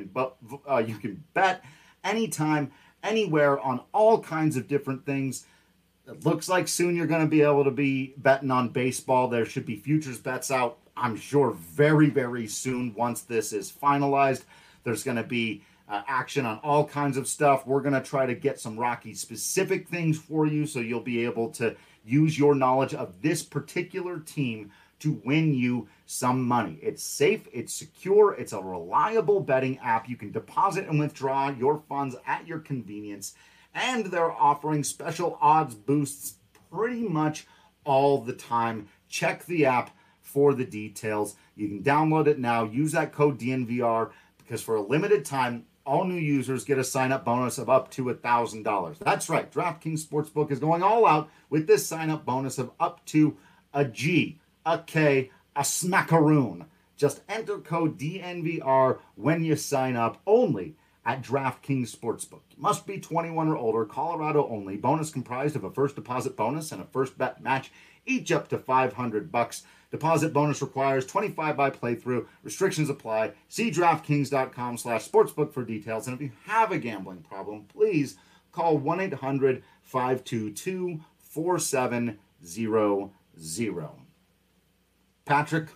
can bet anytime, anywhere on all kinds of different things. It looks like soon you're going to be able to be betting on baseball. There should be futures bets out, I'm sure, very, very soon once this is finalized. There's going to be action on all kinds of stuff. We're going to try to get some Rocky-specific things for you so you'll be able to use your knowledge of this particular team to win you some money. It's safe, it's secure, it's a reliable betting app. You can deposit and withdraw your funds at your convenience, and they're offering special odds boosts pretty much all the time. Check the app for the details. You can download it now. Use that code DNVR because for a limited time, all new users get a sign-up bonus of up to $1,000. That's right. DraftKings Sportsbook is going all out with this sign-up bonus of up to a G, a K, a smackaroon. Just enter code DNVR when you sign up only at DraftKings Sportsbook. You must be 21 or older, Colorado only. Bonus comprised of a first deposit bonus and a first bet match, each up to $500. Deposit bonus requires 25 by playthrough. Restrictions apply. See DraftKings.com/sportsbook for details. And if you have a gambling problem, please call 1-800-522-4700. Patrick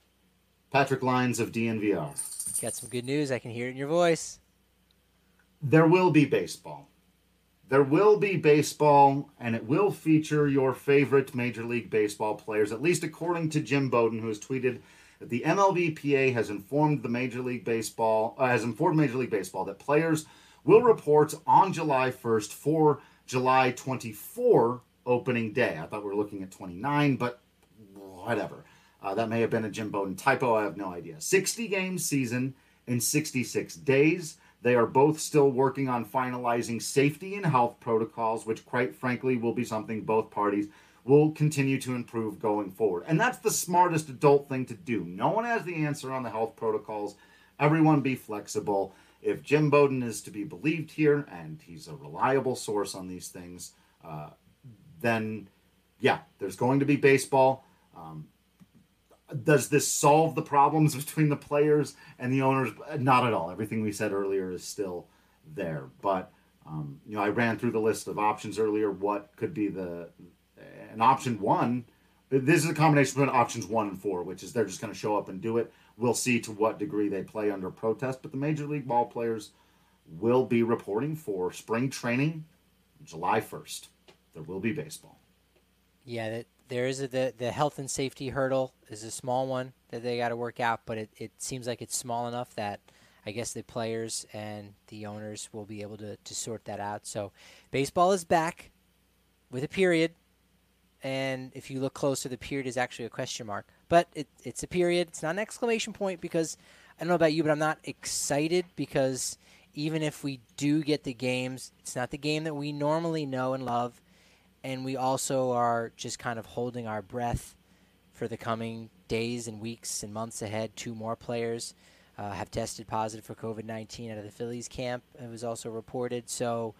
Lyons of DNVR. Got some good news. I can hear it in your voice. There will be baseball. There will be baseball, and it will feature your favorite Major League Baseball players, at least according to Jim Bowden, who has tweeted that the MLBPA has informed Major League Baseball that players will report on July 1st for July 24 opening day. I thought we were looking at 29, but whatever. That may have been a Jim Bowden typo. I have no idea. 60-game season in 66 days. They are both still working on finalizing safety and health protocols, which quite frankly will be something both parties will continue to improve going forward. And that's the smartest adult thing to do. No one has the answer on the health protocols. Everyone be flexible. If Jim Bowden is to be believed here, and he's a reliable source on these things, then yeah, there's going to be baseball. Does this solve the problems between the players and the owners? Not at all. Everything we said earlier is still there. But, I ran through the list of options earlier. What could be an option one? This is a combination between options 1 and 4, which is they're just going to show up and do it. We'll see to what degree they play under protest. But the Major League ball players will be reporting for spring training July 1st. There will be baseball. Yeah, there is the health and safety hurdle is a small one that they got to work out, but it seems like it's small enough that I guess the players and the owners will be able to sort that out. So baseball is back with a period, and if you look closer, the period is actually a question mark. But it's a period. It's not an exclamation point because I don't know about you, but I'm not excited because even if we do get the games, it's not the game that we normally know and love. And we also are just kind of holding our breath for the coming days and weeks and months ahead. 2 more players have tested positive for COVID-19 out of the Phillies camp. It was also reported. So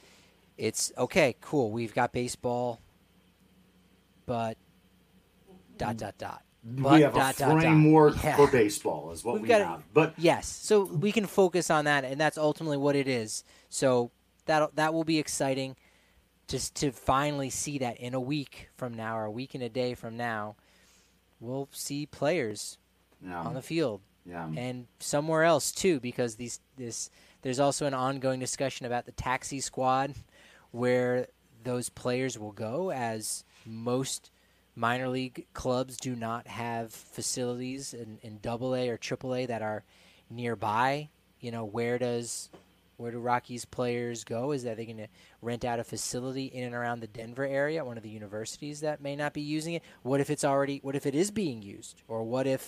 it's okay, cool. We've got baseball, but we have a framework for baseball is what we have. But yes, so we can focus on that, and that's ultimately what it is. So that will be exciting just to finally see that in a week from now or a week and a day from now, we'll see players on the field. Yeah. And somewhere else too, because there's also an ongoing discussion about the taxi squad where those players will go, as most minor league clubs do not have facilities in AA or AAA that are nearby. You know, where do Rockies players go? Is that they're going to rent out a facility in and around the Denver area, one of the universities that may not be using it? What if it is being used? Or what if,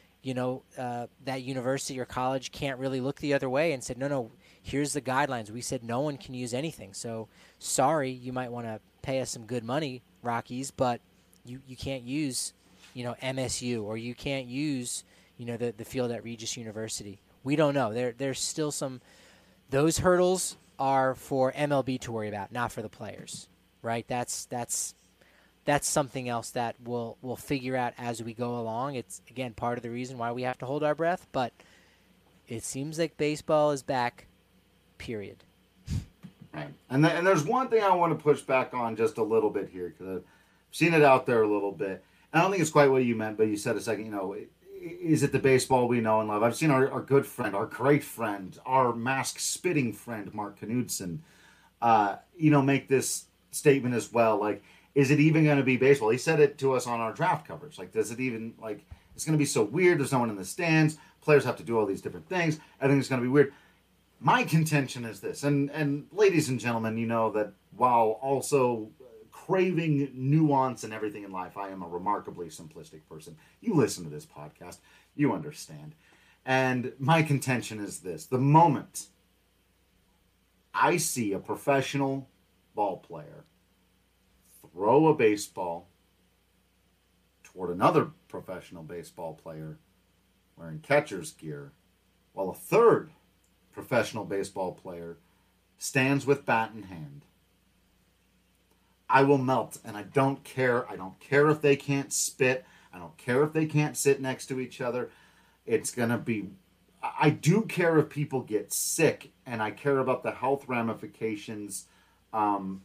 that university or college can't really look the other way and said, no, here's the guidelines. We said no one can use anything. So sorry, you might want to pay us some good money, Rockies, but you can't use, MSU, or you can't use, the field at Regis University. We don't know. There's still those hurdles are for MLB to worry about, not for the players, right? That's something else that we'll figure out as we go along. It's, again, part of the reason why we have to hold our breath, but it seems like baseball is back, period. Right. And there's one thing I want to push back on just a little bit here, because I've seen it out there a little bit. I don't think it's quite what you meant, but you said a second, is it the baseball we know and love? I've seen our good friend, our great friend, our mask-spitting friend, Mark Knudsen, make this statement as well. Like, is it even going to be baseball? He said it to us on our draft coverage. Like, does it even, it's going to be so weird. There's no one in the stands. Players have to do all these different things. I think it's going to be weird. My contention is this, and ladies and gentlemen, you know that while also craving nuance and everything in life, I am a remarkably simplistic person. You listen to this podcast, you understand. And my contention is this: the moment I see a professional ball player throw a baseball toward another professional baseball player wearing catcher's gear, while a third professional baseball player stands with bat in hand, I will melt, and I don't care. I don't care if they can't spit. I don't care if they can't sit next to each other. It's going to be... I do care if people get sick, and I care about the health ramifications. I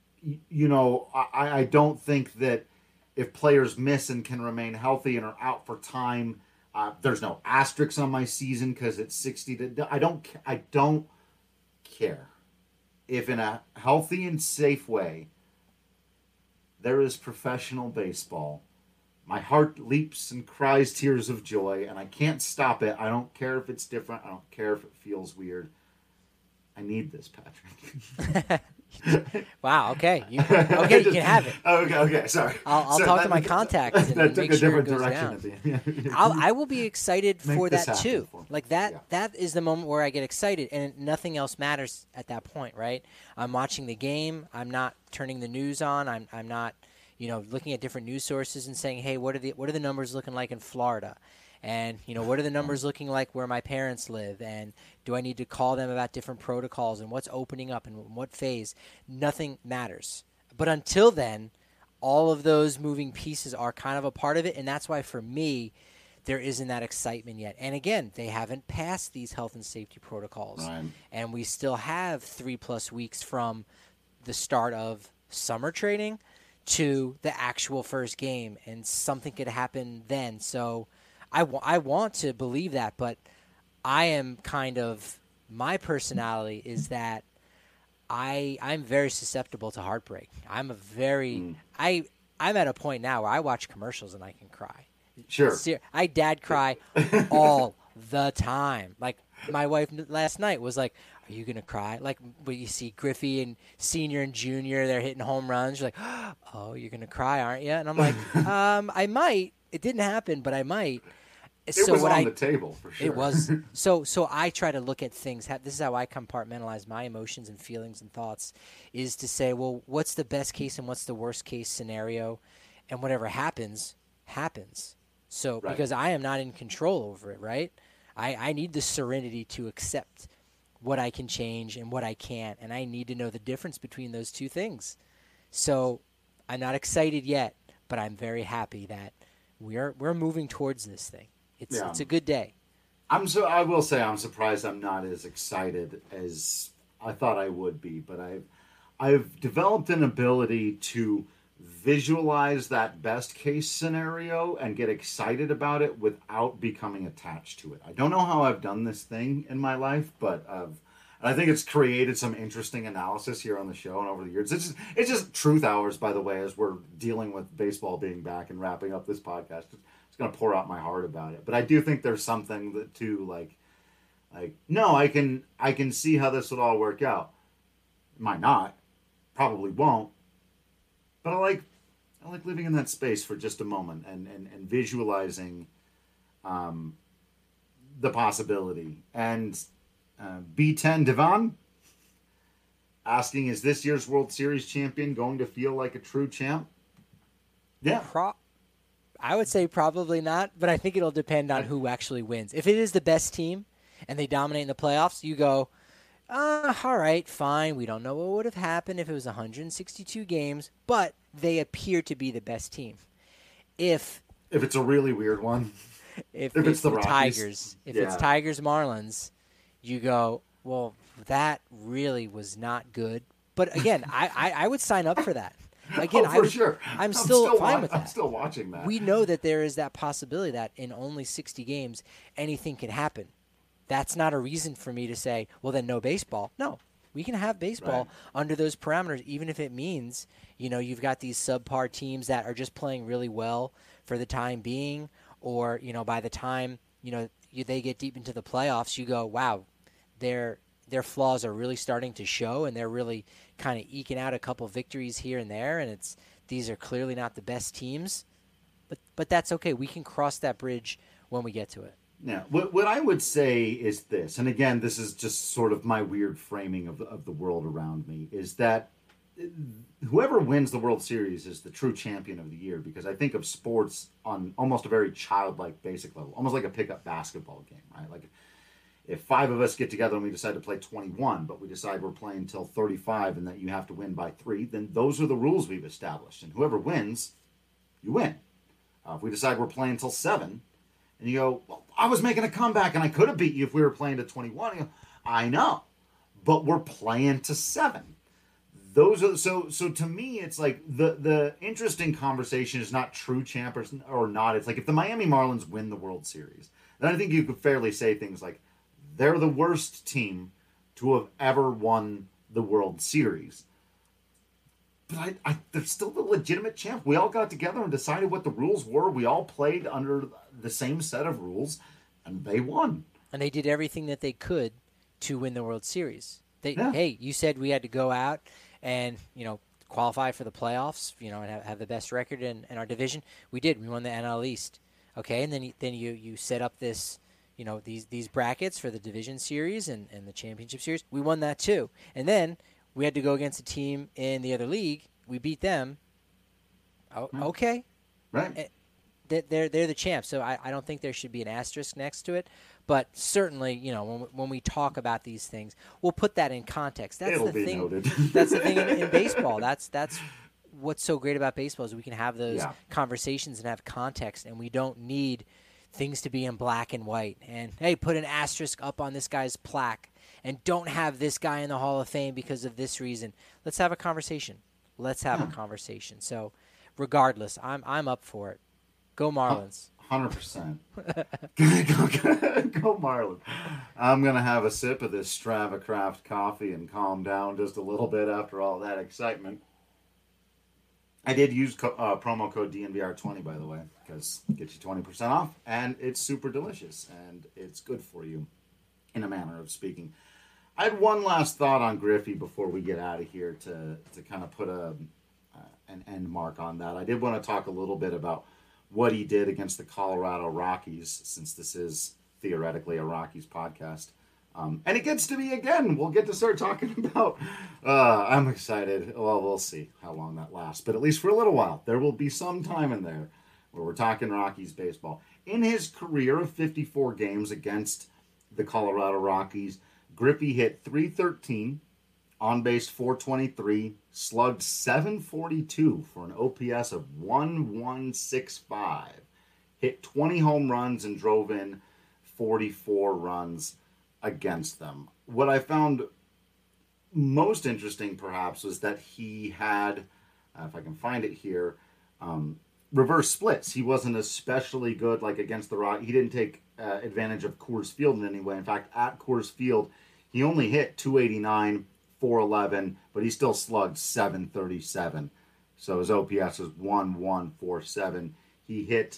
don't think that if players miss and can remain healthy and are out for time, there's no asterisks on my season because it's 60 to... I don't care. If in a healthy and safe way there is professional baseball, my heart leaps and cries tears of joy, and I can't stop it. I don't care if it's different. I don't care if it feels weird. I need this, Patrick. Wow. Okay. You can have it. Okay. Sorry. I'll talk to my contacts and that took make a sure different it goes direction down. at the end. I will be excited for that too. That That is the moment where I get excited, and nothing else matters at that point, right? I'm watching the game. I'm not turning the news on. I'm not, looking at different news sources and saying, hey, what are the numbers looking like in Florida? And, what are the numbers looking like where my parents live? And do I need to call them about different protocols and what's opening up and what phase? Nothing matters. But until then, all of those moving pieces are kind of a part of it. And that's why, for me, there isn't that excitement yet. And again, they haven't passed these health and safety protocols. Right. And we still have 3+ weeks from the start of summer training to the actual first game. And something could happen then. So I want to believe that, but I am my personality is that I'm very susceptible to heartbreak. I'm at a point now where I watch commercials and I can cry. Sure. I dad cry all the time. Like, my wife last night was like, are you going to cry? Like, when you see Griffey and Senior and Junior, they're hitting home runs. You're like, oh, you're going to cry, aren't you? And I'm like, I might. It didn't happen, but I might. It was on the table, for sure. It was. So I try to look at things. This is how I compartmentalize my emotions and feelings and thoughts, is to say, well, what's the best case and what's the worst case scenario? And whatever happens, happens. So right. Because I am not in control over it, right? I need the serenity to accept what I can change and what I can't, and I need to know the difference between those two things. So I'm not excited yet, but I'm very happy that we're moving towards this thing. It's Yeah. it's a good day. I will say I'm surprised I'm not as excited as I thought I would be, but I've developed an ability to visualize that best case scenario and get excited about it without becoming attached to it. I don't know how I've done this thing in my life, but I think it's created some interesting analysis here on the show and over the years. It's just truth hours, by the way, as we're dealing with baseball being back and wrapping up this podcast. Just gonna pour out my heart about it. But I do think there's something that too like no, I can see how this would all work out. Might not, probably won't. But I like living in that space for just a moment and visualizing the possibility. And B10 Devon asking, is this year's World Series champion going to feel like a true champ? Yeah. I would say probably not, but I think it'll depend on who actually wins. If it is the best team and they dominate in the playoffs, you go, all right, fine. We don't know what would have happened if it was 162 games, but they appear to be the best team. If it's a really weird one, if it's the Tigers, if Yeah. it's Tigers Marlins, you go, well, that really was not good. But again, I would sign up for that. Again, sure. I'm still fine with that. I'm still watching that. We know that there is that possibility that in only 60 games, anything can happen. That's not a reason for me to say, well, then no baseball. No, we can have baseball under those parameters, even if it means, you've got these subpar teams that are just playing really well for the time being, or, by the time, they get deep into the playoffs, you go, wow, their flaws are really starting to show, and they're really kind of eking out a couple victories here and there, and these are clearly not the best teams, but that's okay. We can cross that bridge when we get to it. Yeah, what I would say is this, and again, this is just sort of my weird framing of the world around me, is that whoever wins the World Series is the true champion of the year, because I think of sports on almost a very childlike, basic level, almost like a pickup basketball game, right? Like if 5 of us get together and we decide to play 21, but we decide we're playing till 35 and that you have to win by 3, then those are the rules we've established, and whoever wins, you win. If we decide we're playing till 7, and you go, well, I was making a comeback and I could have beat you if we were playing to 21. You go, I know, but we're playing to 7. Those are so to me, it's like the interesting conversation is not true champ or not. It's like if the Miami Marlins win the World Series, then I think you could fairly say things like they're the worst team to have ever won the World Series. But they're still the legitimate champ. We all got together and decided what the rules were. We all played under the same set of rules, and they won. And they did everything that they could to win the World Series. Hey, you said we had to go out and qualify for the playoffs, and have the best record in our division. We did. We won the NL East. Okay, and then you set up this, these brackets for the division series and the championship series. We won that too. And then we had to go against a team in the other league. We beat them. Oh, okay. Right. They're the champs, so I don't think there should be an asterisk next to it. But certainly, when we talk about these things, we'll put that in context. That's It'll the be thing. Noted. That's the thing in baseball. That's what's so great about baseball is we can have those conversations and have context, and we don't need things to be in black and white. And hey, put an asterisk up on this guy's plaque, and don't have this guy in the Hall of Fame because of this reason. Let's have a conversation. Let's have a conversation. So, regardless, I'm up for it. Go Marlins. 100%. Go Marlins. I'm going to have a sip of this StravaCraft coffee and calm down just a little bit after all that excitement. I did use promo code DNVR20, by the way, because it gets you 20% off, and it's super delicious, and it's good for you, in a manner of speaking. I had one last thought on Griffey before we get out of here to kind of put an end mark on that. I did want to talk a little bit about what he did against the Colorado Rockies, since this is theoretically a Rockies podcast. And it gets to be, again, we'll get to start talking about, I'm excited. Well, we'll see how long that lasts, but at least for a little while, there will be some time in there where we're talking Rockies baseball. In his career of 54 games against the Colorado Rockies, Griffey hit .313, on base .423, slugged .742 for an OPS of .1165. hit 20 home runs and drove in 44 runs against them. What I found most interesting, perhaps, was that he had, if I can find it here, reverse splits. He wasn't especially good, like against the Rock. He didn't take advantage of Coors Field in any way. In fact, at Coors Field, he only hit 289, 411, but he still slugged 737. So his OPS was 1147. He hit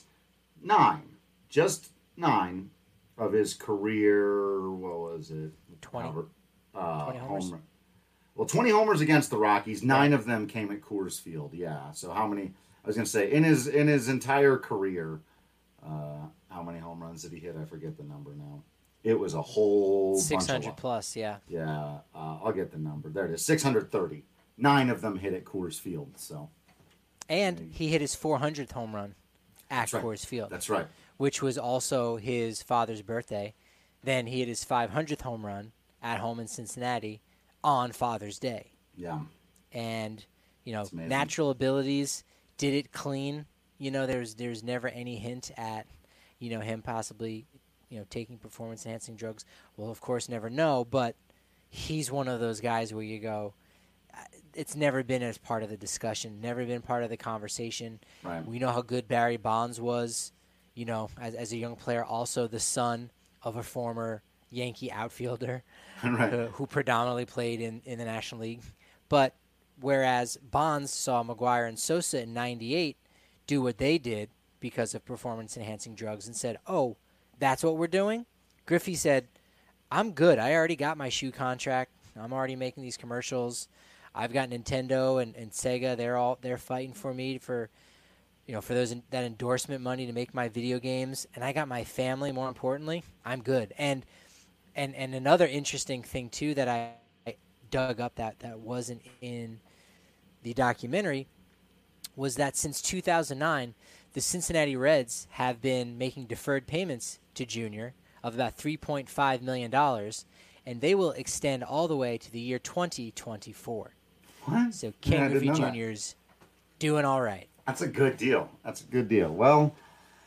just nine of his career. What was it? 20. 20 homers. Well, 20 homers against the Rockies. 9 of them came at Coors Field. Yeah. So how many? I was gonna say in his entire career, how many home runs did he hit? I forget the number now. It was a whole 600 plus. Yeah. Yeah. I'll get the number. There it is. 630. 9 of them hit at Coors Field. So. And he hit his 400th home run at Coors Field. That's right. Which was also his father's birthday. Then he hit his 500th home run at home in Cincinnati on Father's Day. Yeah. And, natural abilities, did it clean. There's never any hint at, him possibly, taking performance-enhancing drugs. We'll, of course, never know, but he's one of those guys where you go, it's never been as part of the discussion, never been part of the conversation. Right. We know how good Barry Bonds was, as a young player, also the son of a former Yankee outfielder right. who predominantly played in the National League. But whereas Bonds saw McGwire and Sosa in 98 do what they did because of performance-enhancing drugs and said, oh, that's what we're doing? Griffey said, I'm good. I already got my shoe contract. I'm already making these commercials. I've got Nintendo and Sega. They're fighting for me for that endorsement money to make my video games. And I got my family, more importantly. I'm good. And another interesting thing, too, that I dug up that wasn't in the documentary was that since 2009, the Cincinnati Reds have been making deferred payments to Junior of about $3.5 million, and they will extend all the way to the year 2024. What? So Ken Griffey Jr.'s doing all right. That's a good deal. Well,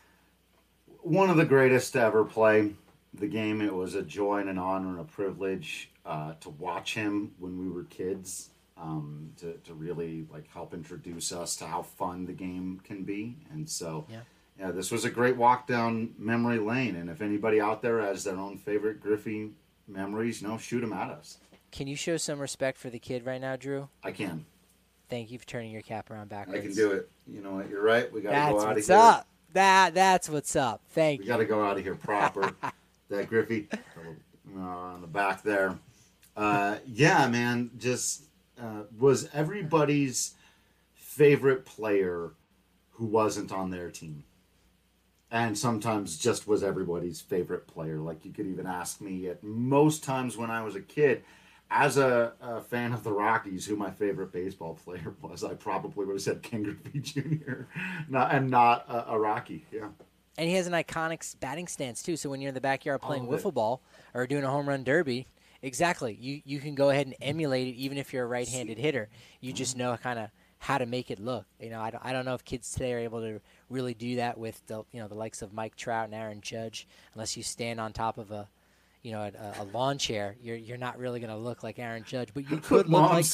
one of the greatest to ever play the game. It was a joy and an honor and a privilege to watch him when we were kids, to really help introduce us to how fun the game can be. And so, yeah, this was a great walk down memory lane. And if anybody out there has their own favorite Griffey memories, shoot them at us. Can you show some respect for the kid right now, Drew? I can. Thank you for turning your cap around backwards. I can do it. You know what? You're right. We got to go out of here. That's what's up. That's what's up. Thank you. We got to go out of here proper. That Griffey on the back there. Yeah, man. Just was everybody's favorite player who wasn't on their team. And sometimes just was everybody's favorite player. Like you could even ask me at most times when I was a kid, as a fan of the Rockies, who my favorite baseball player was, I probably would have said Ken Griffey Jr. not a Rocky. Yeah. And he has an iconic batting stance, too. So when you're in the backyard playing wiffle ball or doing a home run derby, exactly, you can go ahead and emulate it even if you're a right-handed hitter. You just know kind of how to make it look. I don't know if kids today are able to really do that with the likes of Mike Trout and Aaron Judge, unless you stand on top of a lawn chair. You're not really going to look like Aaron Judge, but you could look like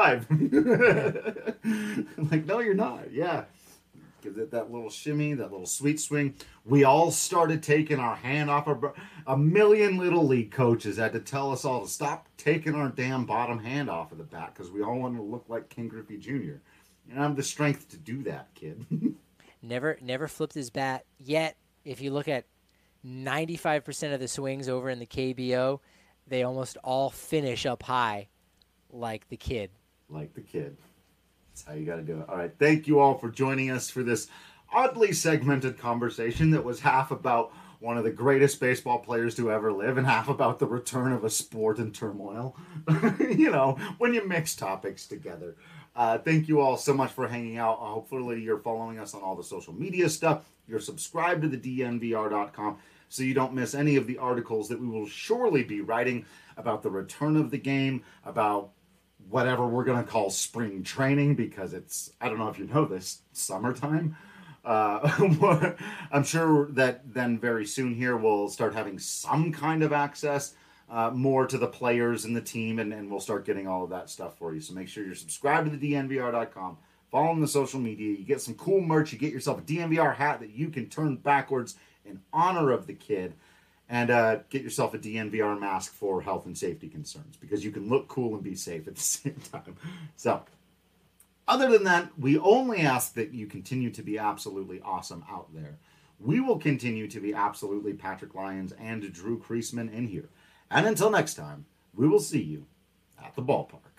6'5". No, you're not. Yeah. Give it that little shimmy, that little sweet swing. We all started taking our hand off a million little league coaches had to tell us all to stop taking our damn bottom hand off of the bat because we all wanted to look like Ken Griffey Jr. And I have the strength to do that, kid. Never flipped his bat yet. If you look at 95% of the swings over in the KBO, they almost all finish up high like the kid. Like the kid. That's how you got to do it. All right. Thank you all for joining us for this oddly segmented conversation that was half about one of the greatest baseball players to ever live and half about the return of a sport in turmoil. When you mix topics together. Thank you all so much for hanging out. Hopefully you're following us on all the social media stuff. You're subscribed to the DNVR.com so you don't miss any of the articles that we will surely be writing about the return of the game, about whatever we're going to call spring training, because it's, I don't know if you know this, summertime. I'm sure that then very soon here we'll start having some kind of access more to the players and the team, and we'll start getting all of that stuff for you. So make sure you're subscribed to the DNVR.com, follow on the social media. You get some cool merch. You get yourself a DNVR hat that you can turn backwards in honor of the kid, and get yourself a DNVR mask for health and safety concerns, because you can look cool and be safe at the same time. So other than that, we only ask that you continue to be absolutely awesome out there. We will continue to be absolutely Patrick Lyons and Drew Creasman in here. And until next time, we will see you at the ballpark.